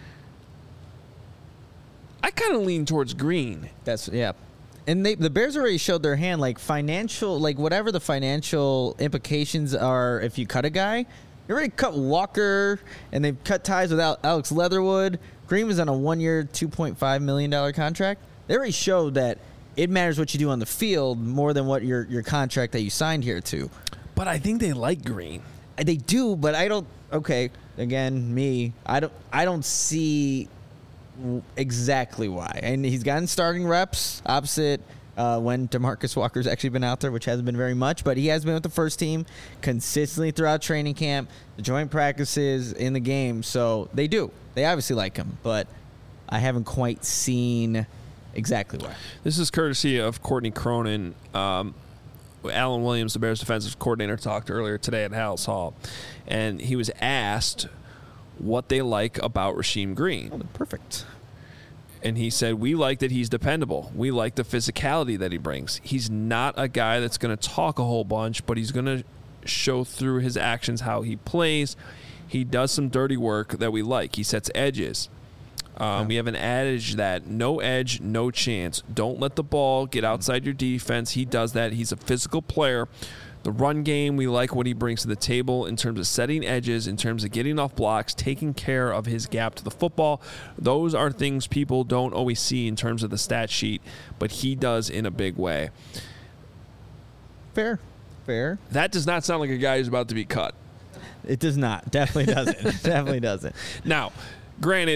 I kind of lean towards Green. Yeah. And the Bears already showed their hand, like financial, like whatever the financial implications are if you cut a guy. They already cut Walker, and they've cut ties with Alex Leatherwood. Green was on a 1-year, $2.5 million contract. They already showed that it matters what you do on the field more than what your contract that you signed here to. But I think they like Green. They do, but I don't. Okay, again, I don't see exactly why. And he's gotten starting reps opposite when DeMarcus Walker's actually been out there, which hasn't been very much, but he has been with the first team consistently throughout training camp, the joint practices, in the game. So they obviously like him, but I haven't quite seen exactly why. This is courtesy of Courtney Cronin. Alan Williams, the Bears defensive coordinator, talked earlier today at Halas Hall, and he was asked what they like about Rasheem Green. Oh, perfect. And he said, we like that he's dependable. We like the physicality that he brings. He's not a guy that's going to talk a whole bunch, but he's going to show through his actions how he plays. He does some dirty work that we like. He sets edges. We have an adage that no edge, no chance. Don't let the ball get outside your defense. He does that. He's a physical player. The run game, we like what he brings to the table in terms of setting edges, in terms of getting off blocks, taking care of his gap to the football. Those are things people don't always see in terms of the stat sheet, but he does in a big way. Fair. That does not sound like a guy who's about to be cut. It does not. Definitely doesn't. Definitely doesn't. Now, granted,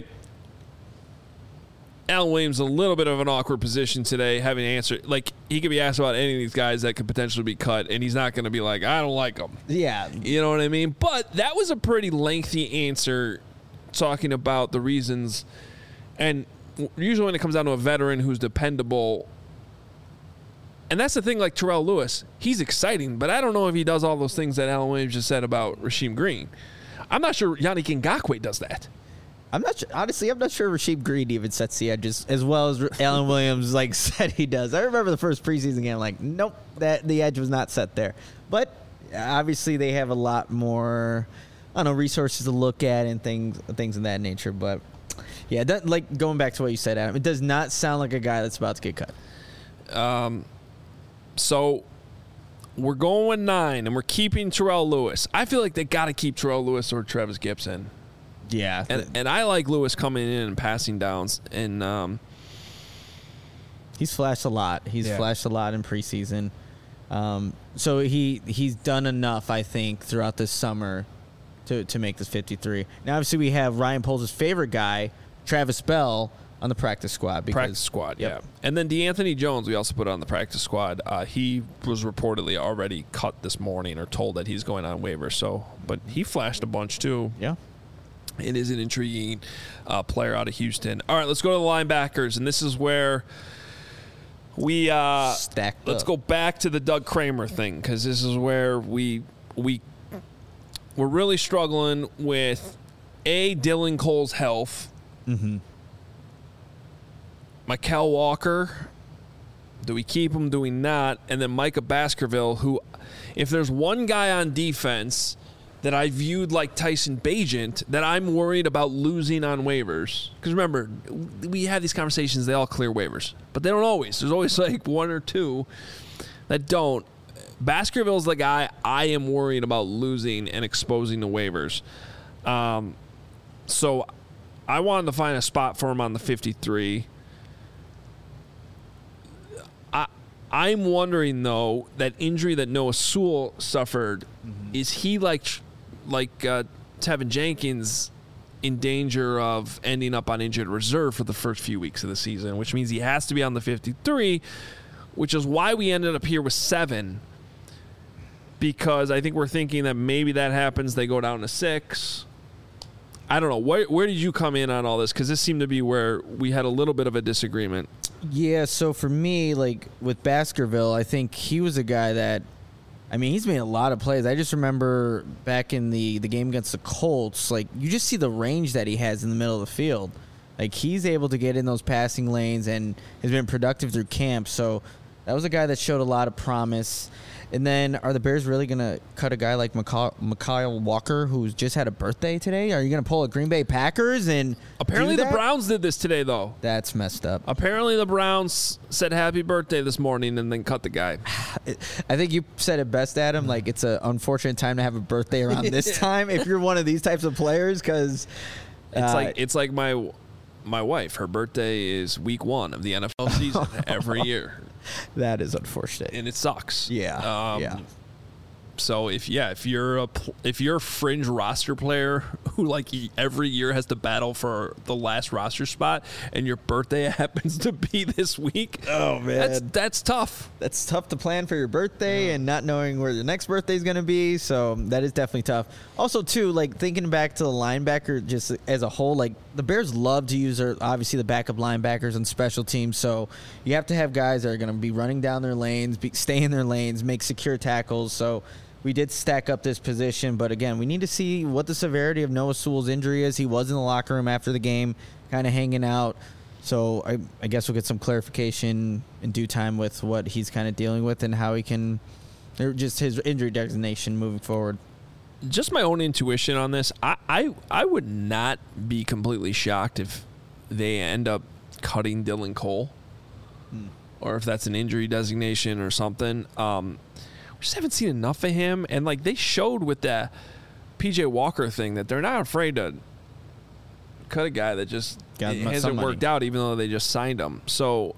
Alan Williams in a little bit of an awkward position today, having to answer. Like, he could be asked about any of these guys that could potentially be cut, and he's not going to be like, I don't like them. Yeah. You know what I mean? But that was a pretty lengthy answer talking about the reasons. And usually when it comes down to a veteran who's dependable, and that's the thing, like Terrell Lewis, he's exciting, but I don't know if he does all those things that Alan Williams just said about Rasheem Green. I'm not sure Yannick Ngakoue does that. I'm not sure, honestly. I'm not sure Rasheem Green even sets the edges as well as Alan Williams said he does. I remember the first preseason game. I'm like, nope, that the edge was not set there. But obviously, they have a lot more, resources to look at and things of that nature. But yeah, going back to what you said, Adam, it does not sound like a guy that's about to get cut. So we're going 9, and we're keeping Terrell Lewis. I feel like they got to keep Terrell Lewis or Travis Gibson. Yeah, and I like Lewis coming in and passing downs, and he's flashed a lot. He's flashed a lot in preseason, so he's done enough, I think, throughout this summer to make this 53. Now, obviously, we have Ryan Poles' favorite guy, Travis Bell, on the practice squad. Yeah. And then DeAnthony Jones, we also put on the practice squad. He was reportedly already cut this morning or told that he's going on waivers. But he flashed a bunch too. Yeah. It is an intriguing player out of Houston. All right, let's go to the linebackers, and this is where we let's go back to the Doug Kramer thing, because this is where we're really struggling with Dylan Cole's health. Mm-hmm. Mykal Walker, do we keep him? Do we not? And then Micah Baskerville, who, if there's one guy on defense that I viewed like Tyson Bagent that I'm worried about losing on waivers. Because remember, we have these conversations, they all clear waivers. But they don't always. There's always like one or two that don't. Baskerville's the guy I am worried about losing and exposing to waivers. So I wanted to find a spot for him on the 53. I'm wondering, though, that injury that Noah Sewell suffered, is he like Tevin Jenkins in danger of ending up on injured reserve for the first few weeks of the season, which means he has to be on the 53, which is why we ended up here with 7, because I think we're thinking that maybe that happens, they go down to 6. I don't know. Where did you come in on all this? Because this seemed to be where we had a little bit of a disagreement. Yeah, so for me, like with Baskerville, I think he was a guy that, I mean, he's made a lot of plays. I just remember back in the game against the Colts, like you just see the range that he has in the middle of the field. Like he's able to get in those passing lanes and has been productive through camp. So that was a guy that showed a lot of promise. And then are the Bears really going to cut a guy like Mykal Walker, who's just had a birthday today? Are you going to pull a Green Bay Packers? And apparently the Browns did this today, though. That's messed up. Apparently the Browns said happy birthday this morning and then cut the guy. I think you said it best, Adam. Like, it's an unfortunate time to have a birthday around this time if you're one of these types of players, because it's like my wife. Her birthday is week 1 of the NFL season every year. That is unfortunate, and it sucks. Yeah, yeah. So if you're a fringe roster player who like every year has to battle for the last roster spot, and your birthday happens to be this week, oh man, that's tough. That's tough to plan for your birthday and not knowing where the next birthday is going to be. So that is definitely tough. Also, too, like thinking back to the linebacker just as a whole, like the Bears love to use obviously the backup linebackers on special teams. So you have to have guys that are going to be running down their lanes, stay in their lanes, make secure tackles. So we did stack up this position, but again, we need to see what the severity of Noah Sewell's injury is. He was in the locker room after the game, kind of hanging out. So I guess we'll get some clarification in due time with what he's kind of dealing with and how he can, or just his injury designation moving forward. Just my own intuition on this. I would not be completely shocked if they end up cutting Dylan Cole, or if that's an injury designation or something. We just haven't seen enough of him, and like they showed with that PJ Walker thing that they're not afraid to cut a guy that just hasn't worked out, even though they just signed him. So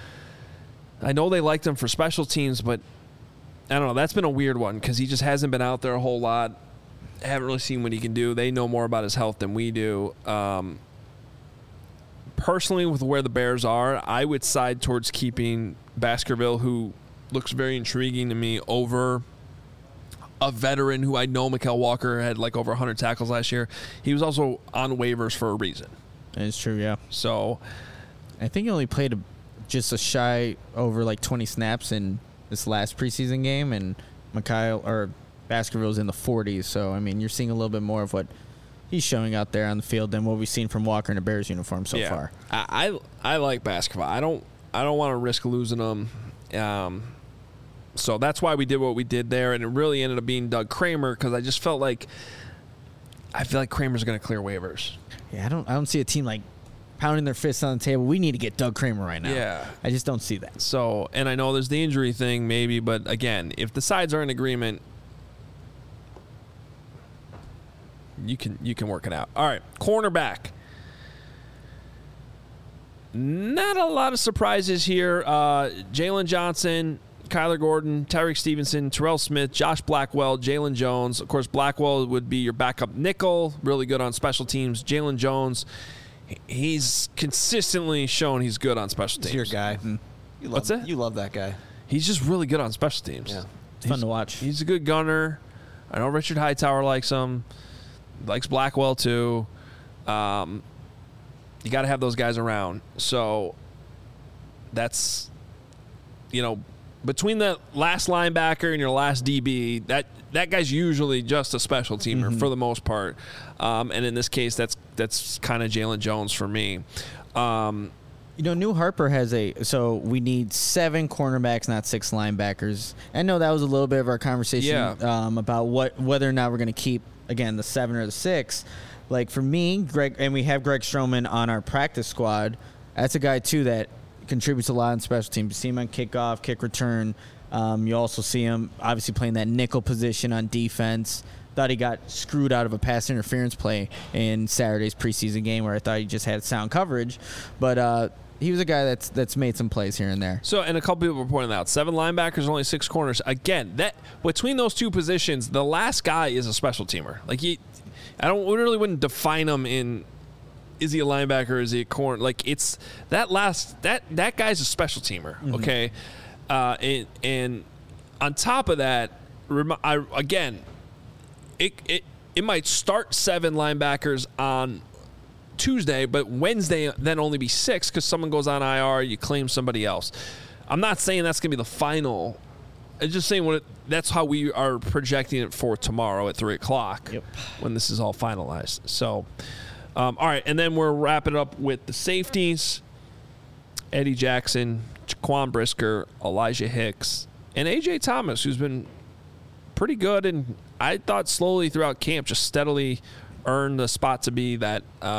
I know they liked him for special teams, but I don't know. That's been a weird one because he just hasn't been out there a whole lot. I haven't really seen what he can do. They know more about his health than we do. Personally, with where the Bears are, I would side towards keeping Baskerville, who looks very intriguing to me, over a veteran who I know. Mykal Walker had like over 100 tackles last year. He was also on waivers for a reason. It's true, yeah. So I think he only played just a shy over like 20 snaps in this last preseason game, and Baskerville's in the 40s. So I mean, you're seeing a little bit more of what he's showing out there on the field than what we've seen from Walker in a Bears uniform so far. I like Baskerville. I don't want to risk losing him. So that's why we did what we did there, and it really ended up being Doug Kramer because I feel like Kramer's going to clear waivers. Yeah, I don't see a team like pounding their fists on the table. We need to get Doug Kramer right now. Yeah, I just don't see that. So, and I know there's the injury thing maybe, but again, if the sides are in agreement, you can work it out. All right, cornerback. Not a lot of surprises here. Jalen Johnson, Kyler Gordon, Tyreek Stevenson, Terrell Smith, Josh Blackwell, Jalen Jones. Of course, Blackwell would be your backup nickel, really good on special teams. Jalen Jones, he's consistently shown he's good on special teams. He's your guy. What's that? You love that guy. He's just really good on special teams. Yeah. It's fun to watch. He's a good gunner. I know Richard Hightower likes him. Likes Blackwell too. You got to have those guys around. So that's, between the last linebacker and your last DB, that guy's usually just a special teamer for the most part. And in this case, that's kind of Jalen Jones for me. New Harper has so we need 7 cornerbacks, not 6 linebackers. I know that was a little bit of our conversation about whether or not we're going to keep, again, the 7 or the 6. Like for me, Greg, and we have Greg Stroman on our practice squad. That's a guy too that contributes a lot in special teams. You see him on kickoff, kick return. You also see him obviously playing that nickel position on defense. Thought he got screwed out of a pass interference play in Saturday's preseason game where I thought he just had sound coverage, but he was a guy that's made some plays here and there. So, and a couple people were pointing out 7 linebackers, only 6 corners. Again, that between those two positions, the last guy is a special teamer. Like we really wouldn't define him in. Is he a linebacker or is he a corner? Like it's that guy's a special teamer, okay? And on top of that, it might start 7 linebackers on Tuesday, but Wednesday then only be 6 because someone goes on IR, you claim somebody else. I'm not saying that's going to be the final. I'm just saying that's how we are projecting it for tomorrow at 3 o'clock when this is all finalized. So, all right, and then we're wrapping it up with the safeties. Eddie Jackson, Jaquan Brisker, Elijah Hicks, and A.J. Thomas, who's been pretty good, and I thought slowly throughout camp just steadily earned the spot to be that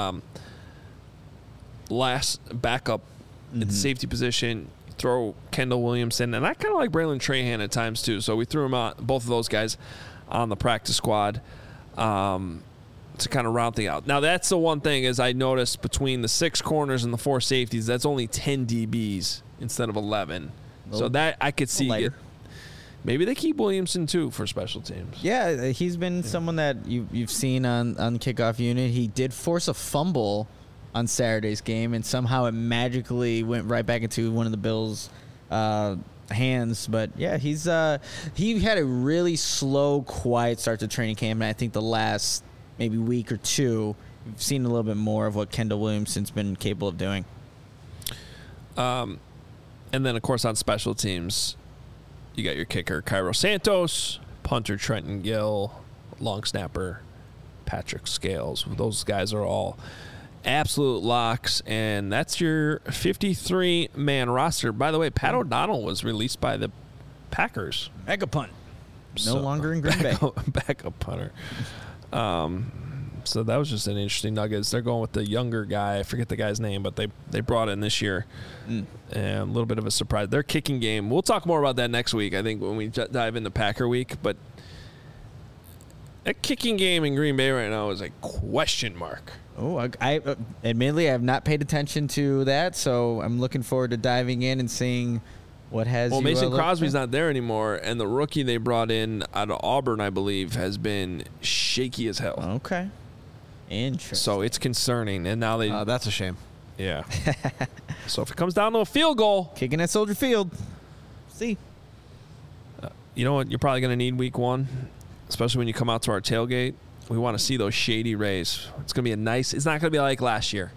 last backup at the safety position. Throw Kendall Williamson, and I kind of like Braylon Trahan at times too, so we threw him out, both of those guys on the practice squad to kind of round things out. Now, that's the one thing is I noticed between the 6 corners and the 4 safeties, that's only 10 DBs instead of 11. So that I could see. Maybe they keep Williamson too for special teams. Yeah, he's been someone that you've seen on the kickoff unit. He did force a fumble on Saturday's game, and somehow it magically went right back into one of the Bills' hands. But yeah, he had a really slow, quiet start to training camp, and I think the last maybe week or two, we've seen a little bit more of what Kendall Williamson's been capable of doing. And then, of course, on special teams, you got your kicker, Cairo Santos, punter, Trenton Gill, long snapper, Patrick Scales. Those guys are all absolute locks, and that's your 53-man roster. By the way, Pat O'Donnell was released by the Packers. Mega punt. No longer in Green Bay. Backup punter. So that was just an interesting nugget. They're going with the younger guy. I forget the guy's name, but they brought in this year. And a little bit of a surprise. Their kicking game, we'll talk more about that next week, I think, when we dive into Packer Week. But that kicking game in Green Bay right now is a question mark. Oh, I admittedly I have not paid attention to that, so I'm looking forward to diving in and seeing what has. Well, Mason Crosby's not there anymore, and the rookie they brought in out of Auburn, I believe, has been shaky as hell. Okay, interesting. So it's concerning, and now they. That's a shame. Yeah. So if it comes down to a field goal, kicking at Soldier Field. See. You know what? You're probably going to need week 1, especially when you come out to our tailgate. We want to see those Shady Rays. It's going to be a nice. It's not going to be like last year.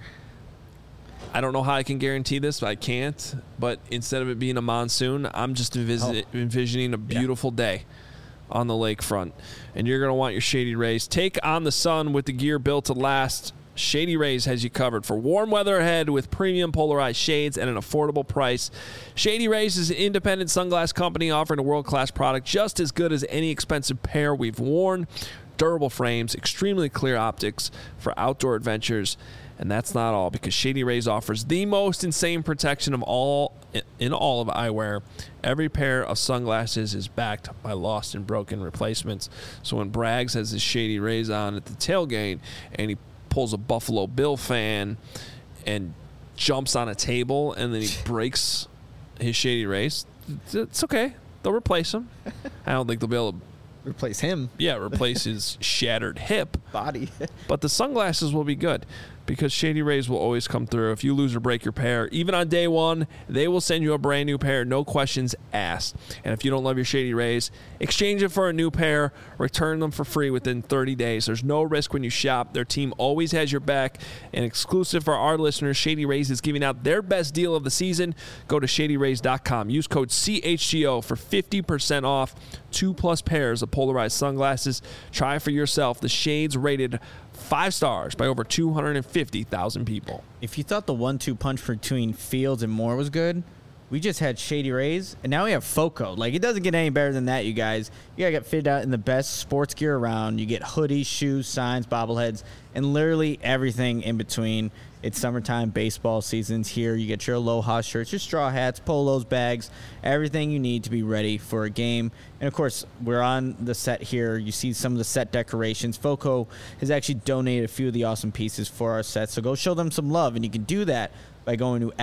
I don't know how I can guarantee this, but I can't. But instead of it being a monsoon, I'm just envisioning a beautiful day on the lakefront. And you're going to want your Shady Rays. Take on the sun with the gear built to last. Shady Rays has you covered for warm weather ahead with premium polarized shades at an affordable price. Shady Rays is an independent sunglass company offering a world-class product just as good as any expensive pair we've worn. Durable frames, extremely clear optics for outdoor adventures. And that's not all, because Shady Rays offers the most insane protection of all in all of eyewear. Every pair of sunglasses is backed by lost and broken replacements. So when Braggs has his Shady Rays on at the tailgate and he pulls a Buffalo Bill fan and jumps on a table and then he breaks his Shady Rays, it's okay. They'll replace him. I don't think they'll be able to replace him. Yeah, replace his shattered hip body. But the sunglasses will be good because Shady Rays will always come through. If you lose or break your pair, even on day 1, they will send you a brand new pair, no questions asked. And if you don't love your Shady Rays, exchange it for a new pair, return them for free within 30 days. There's no risk when you shop. Their team always has your back. And exclusive for our listeners, Shady Rays is giving out their best deal of the season. Go to ShadyRays.com. Use code CHGO for 50% off 2+ pairs of polarized sunglasses. Try for yourself the shades rated 5 stars by over 250,000 people. If you thought the 1-2 punch between Fields and Moore was good, we just had Shady Rays, and now we have FOCO. Like, it doesn't get any better than that, you guys. You gotta get fitted out in the best sports gear around. You get hoodies, shoes, signs, bobbleheads, and literally everything in between. It's summertime, baseball season's here. You get your Aloha shirts, your straw hats, polos, bags, everything you need to be ready for a game. And, of course, we're on the set here. You see some of the set decorations. FOCO has actually donated a few of the awesome pieces for our set, so go show them some love. And you can do that by going to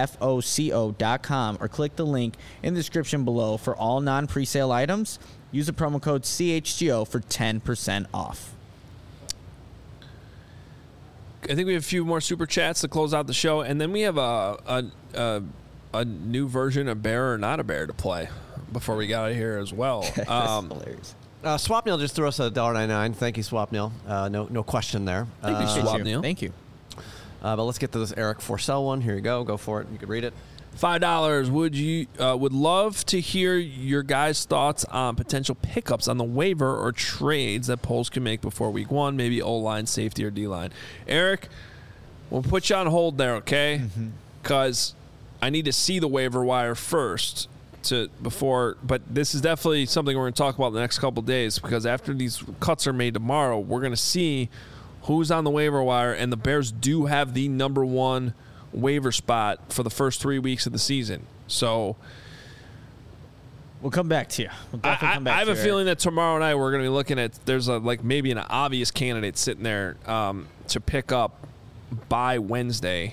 FOCO.com or click the link in the description below for all non-presale items. Use the promo code CHGO for 10% off. I think we have a few more super chats to close out the show, and then we have a new version of Bear or Not a Bear to play before we got out of here as well. That's hilarious. Swapnil just threw us $1.99. Thank you, Swapnil. No question there. Thank you, Swapnil. Thank you. But let's get to this Eric Forsell one. Here you go. Go for it. You can read it. $5. Would love to hear your guys' thoughts on potential pickups on the waiver or trades that Poles can make before week 1, maybe O-line, safety, or D-line. Eric, we'll put you on hold there, okay? Because I need to see the waiver wire first but this is definitely something we're going to talk about the next couple of days, because after these cuts are made tomorrow, we're going to see who's on the waiver wire, and the Bears do have the number 1 waiver spot for the first 3 weeks of the season. So we'll come back to you. I have a feeling that tomorrow night we're going to be looking at maybe an obvious candidate sitting there to pick up by Wednesday,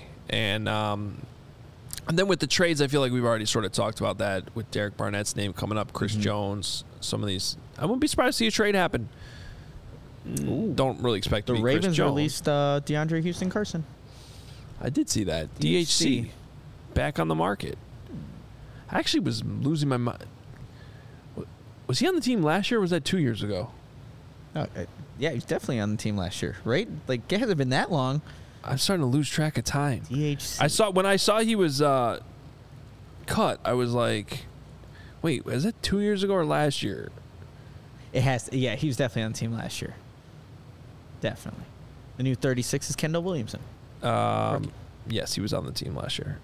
and then with the trades, I feel like we've already sort of talked about that with Derek Barnett's name coming up, Chris Jones, some of these. I wouldn't be surprised to see a trade happen. Don't really expect to be Chris Jones. The Ravens released DeAndre Houston Carson. I did see that. DHC back on the market. I actually was losing my mind. Was he on the team last year, or was that 2 years ago? Yeah, he was definitely on the team last year, right? Like, it hasn't been that long. I'm starting to lose track of time. DHC. When I saw he was cut, I was like, wait, was that 2 years ago or last year? It has. Yeah, he was definitely on the team last year. Definitely. The new 36 is Kendall Williamson. Yes, he was on the team last year.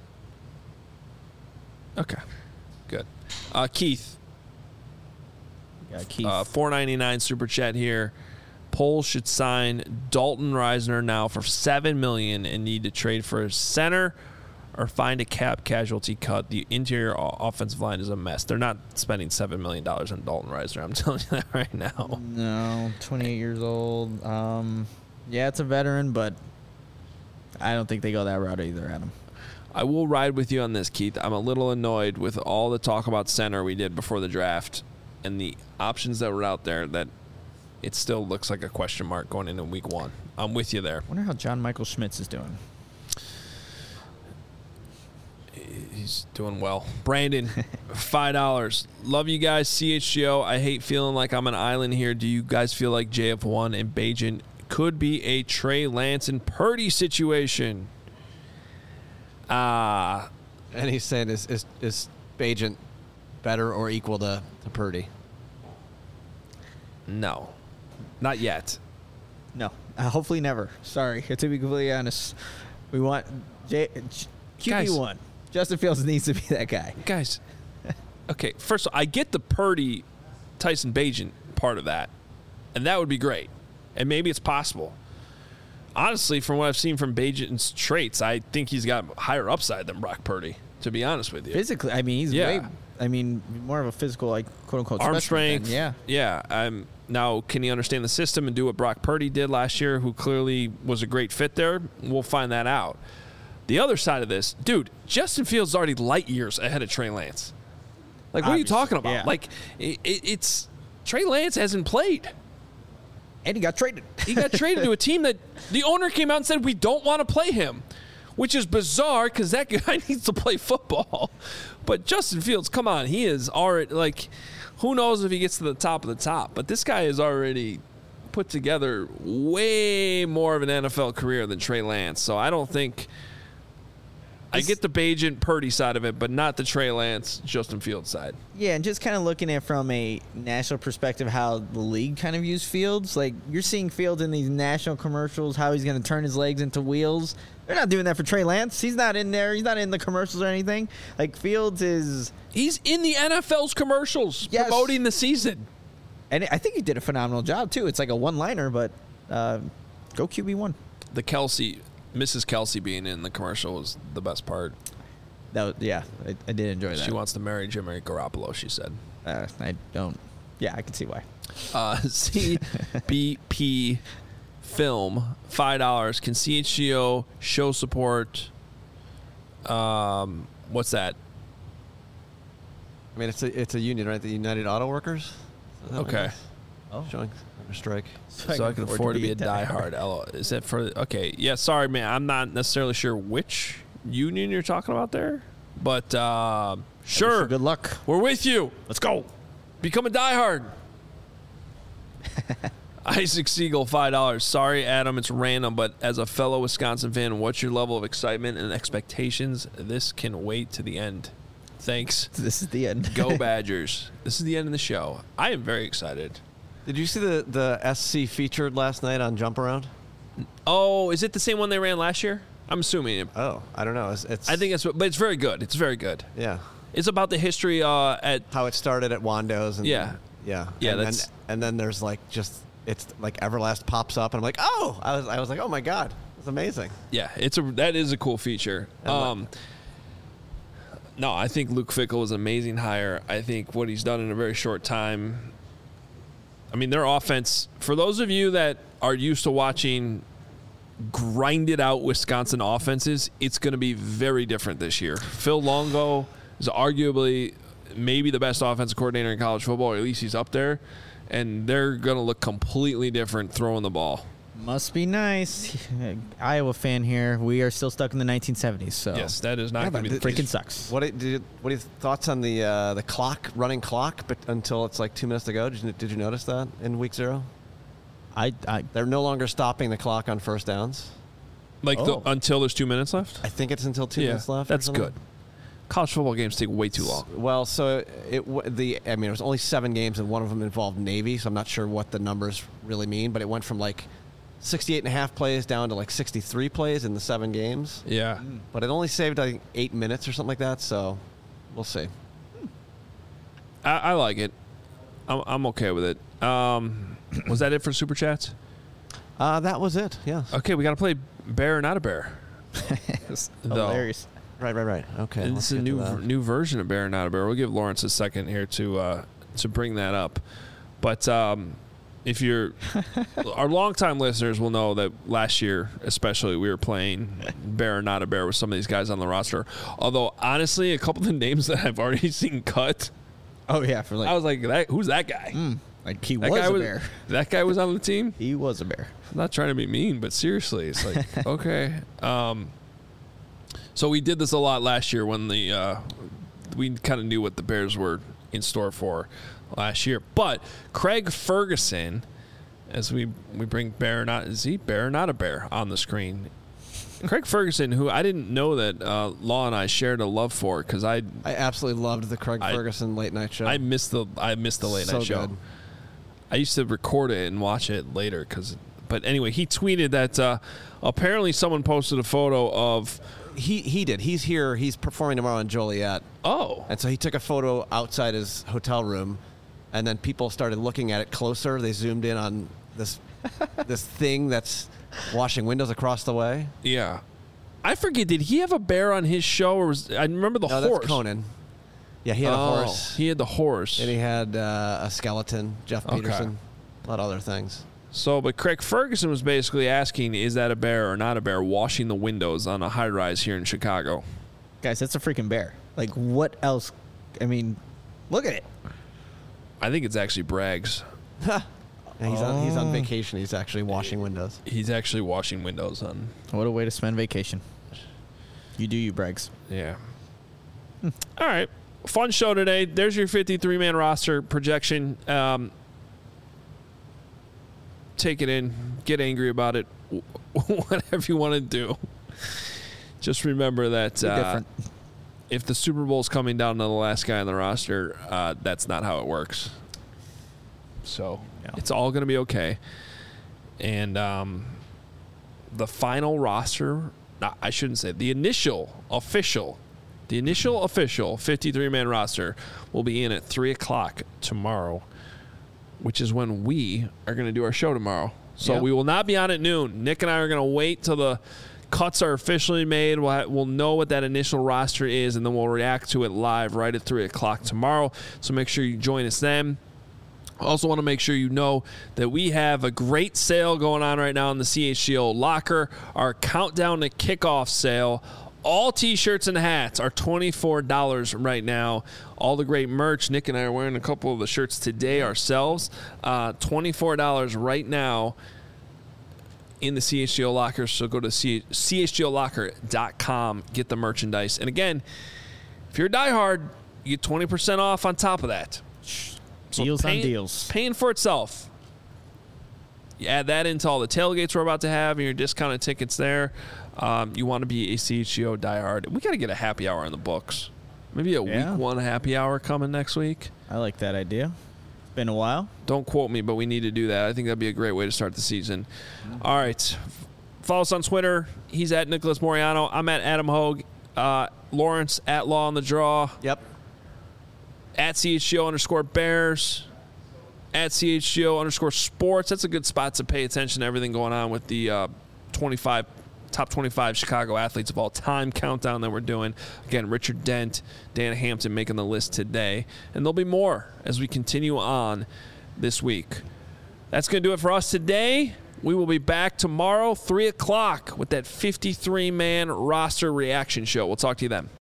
Okay, good. Keith. Yeah, Keith. $4.99 super chat here. Poles should sign Dalton Risner now for $7 million and need to trade for a center or find a cap casualty cut. The interior offensive line is a mess. They're not spending $7 million on Dalton Risner. I'm telling you that right now. No, 28 years old. Yeah, it's a veteran, but I don't think they go that route either, Adam. I will ride with you on this, Keith. I'm a little annoyed with all the talk about center we did before the draft and the options that were out there that it still looks like a question mark going into week 1. I'm with you there. I wonder how John Michael Schmitz is doing. He's doing well. Brandon, $5. Love you guys, CHGO. I hate feeling like I'm an island here. Do you guys feel like JF1 and Bagent could be a Trey Lance and Purdy situation? And he's saying, is Bagent better or equal to Purdy? No. Not yet. No. Hopefully never. Sorry. To be completely honest, we want QB1. Justin Fields needs to be that guy. Guys, okay, first of all, I get the Purdy, Tyson Bagent part of that, and that would be great. And maybe it's possible. Honestly, from what I've seen from Bagent's traits, I think he's got higher upside than Brock Purdy, to be honest with you. Physically, I mean, he's more of a physical, like, quote-unquote arm strength. Yeah. Yeah. Now, can he understand the system and do what Brock Purdy did last year, who clearly was a great fit there? We'll find that out. The other side of this, dude, Justin Fields is already light years ahead of Trey Lance. Like, what are you talking about? Yeah. Like, it's Trey Lance hasn't played. And he got traded. He got traded to a team that the owner came out and said, we don't want to play him, which is bizarre because that guy needs to play football. But Justin Fields, come on, he is already, like, who knows if he gets to the top of the top. But this guy is already put together way more of an NFL career than Trey Lance. So I don't think – I get the Bagent Purdy side of it, but not the Trey Lance, Justin Fields side. Yeah, and just kind of looking at it from a national perspective, how the league kind of views Fields. Like, you're seeing Fields in these national commercials, how he's going to turn his legs into wheels. They're not doing that for Trey Lance. He's not in there. He's not in the commercials or anything. Like, Fields is... He's in the NFL's commercials promoting the season. And I think he did a phenomenal job, too. It's like a one-liner, but go QB1. The Mrs. Kelsey being in the commercial was the best part. I did enjoy that. She wants to marry Jimmy Garoppolo, she said. I don't. Yeah, I can see why. CBP Film, $5. Can CHGO show support? What's that? I mean, it's a union, right? The United Auto Workers? Okay. Oh. Showing a strike. So I can afford to be a diehard. Is that for... Okay. Yeah, sorry, man. I'm not necessarily sure which union you're talking about there. But, sure. Good luck. We're with you. Let's go. Become a diehard. Isaac Siegel, $5. Sorry, Adam, it's random, but as a fellow Wisconsin fan, what's your level of excitement and expectations? This can wait to the end. Thanks. This is the end. Go Badgers. This is the end of the show. I am very excited. Did you see the SC featured last night on Jump Around? Oh, is it the same one they ran last year? I'm assuming. Oh, I don't know. It's I think it's, but it's very good. It's very good. Yeah. It's about the history at how it started at Wando's. And yeah. And then there's like it's like Everlast pops up, and I'm like, oh, I was like, oh my god, it's amazing. Yeah, that is a cool feature. No, I think Luke Fickell was an amazing hire. I think what he's done in a very short time. I mean, their offense, for those of you that are used to watching grinded out Wisconsin offenses, it's going to be very different this year. Phil Longo is arguably maybe the best offensive coordinator in college football, or at least he's up there, and they're going to look completely different throwing the ball. Must be nice. Iowa fan here. We are still stuck in the 1970s. So yes, that is not going to be freaking sucks. What are your thoughts on the clock, running clock, but until it's like 2 minutes to go? Did you notice that in week 0? They're no longer stopping the clock on first downs. Until there's 2 minutes left? I think it's until 2 minutes left. That's good. College football games take way too long. Well, so it was only 7 games, and one of them involved Navy, so I'm not sure what the numbers really mean, but it went from like 68.5 plays down to like 63 plays in the 7 games. Yeah. But it only saved, I think, 8 minutes or something like that, so we'll see. I like it. I'm okay with it. Was that it for Super Chats? That was it, yeah. Okay, we got to play Bear or Not a Bear. Hilarious. Right. Okay. And this is a new version of Bear or Not a Bear. We'll give Lawrence a second here to bring that up. But if you're our longtime listeners will know that last year, especially, we were playing Bear or Not a Bear with some of these guys on the roster. Although honestly, a couple of the names that I've already seen cut. Oh yeah, I was like, who's that guy? Like he was a bear. That guy was on the team. He was a bear. I'm not trying to be mean, but seriously, it's like okay. So we did this a lot last year when we kind of knew what the Bears were in store for last year. But Craig Ferguson, as we bring Bear or Not, is he Bear or Not a Bear on the screen? Craig Ferguson, who I didn't know that Law and I shared a love for, because I absolutely loved the Craig Ferguson late night show. I missed the late night show. Good. I used to record it and watch it later but anyway, he tweeted that apparently someone posted a photo of. He did. He's here. He's performing tomorrow in Joliet. Oh. And so he took a photo outside his hotel room, and then people started looking at it closer. They zoomed in on this thing that's washing windows across the way. Yeah. I forget, did he have a bear on his show? Or I remember the horse. That's Conan. Yeah, he had a horse. He had the horse. And he had a skeleton, Jeff Peterson, a lot of other things. So, but Craig Ferguson was basically asking, is that a bear or not a bear washing the windows on a high-rise here in Chicago? Guys, that's a freaking bear. Like, what else? I mean, look at it. I think it's actually Braggs. He's on vacation. He's actually washing windows. He's actually washing windows on. What a way to spend vacation. You do you, Braggs. Yeah. All right. Fun show today. There's your 53-man roster projection. Take it in. Get angry about it. Whatever you want to do. Just remember that if the Super Bowl's coming down to the last guy on the roster, that's not how it works. So it's all going to be okay. And the final roster, I shouldn't say, the initial official 53-man roster will be in at 3 o'clock tomorrow, which is when we are going to do our show tomorrow. So we will not be on at noon. Nick and I are going to wait till the cuts are officially made. We'll know what that initial roster is, and then we'll react to it live right at 3 o'clock tomorrow. So make sure you join us then. I also want to make sure you know that we have a great sale going on right now in the CHGO Locker, our Countdown to Kickoff sale. All T-shirts and hats are $24 right now. All the great merch. Nick and I are wearing a couple of the shirts today ourselves. $24 right now in the CHGO Locker. So go to chgolocker.com, get the merchandise. And again, if you're a diehard, you get 20% off on top of that. So deals on deals. Paying for itself. You add that into all the tailgates we're about to have and your discounted tickets there. You want to be a CHGO diehard. We got to get a happy hour in the books. Maybe a week one happy hour coming next week. I like that idea. It's been a while. Don't quote me, but we need to do that. I think that'd be a great way to start the season. All right. Follow us on Twitter. He's at Nicholas Moriano. I'm at Adam Hogue. Lawrence at Law on the Draw. Yep. At CHGO_Bears. At CHGO_Sports. That's a good spot to pay attention to everything going on with the top 25 Chicago athletes of all time countdown that we're doing. Again, Richard Dent, Dan Hampton making the list today. And there'll be more as we continue on this week. That's going to do it for us today. We will be back tomorrow, 3 o'clock, with that 53-man roster reaction show. We'll talk to you then.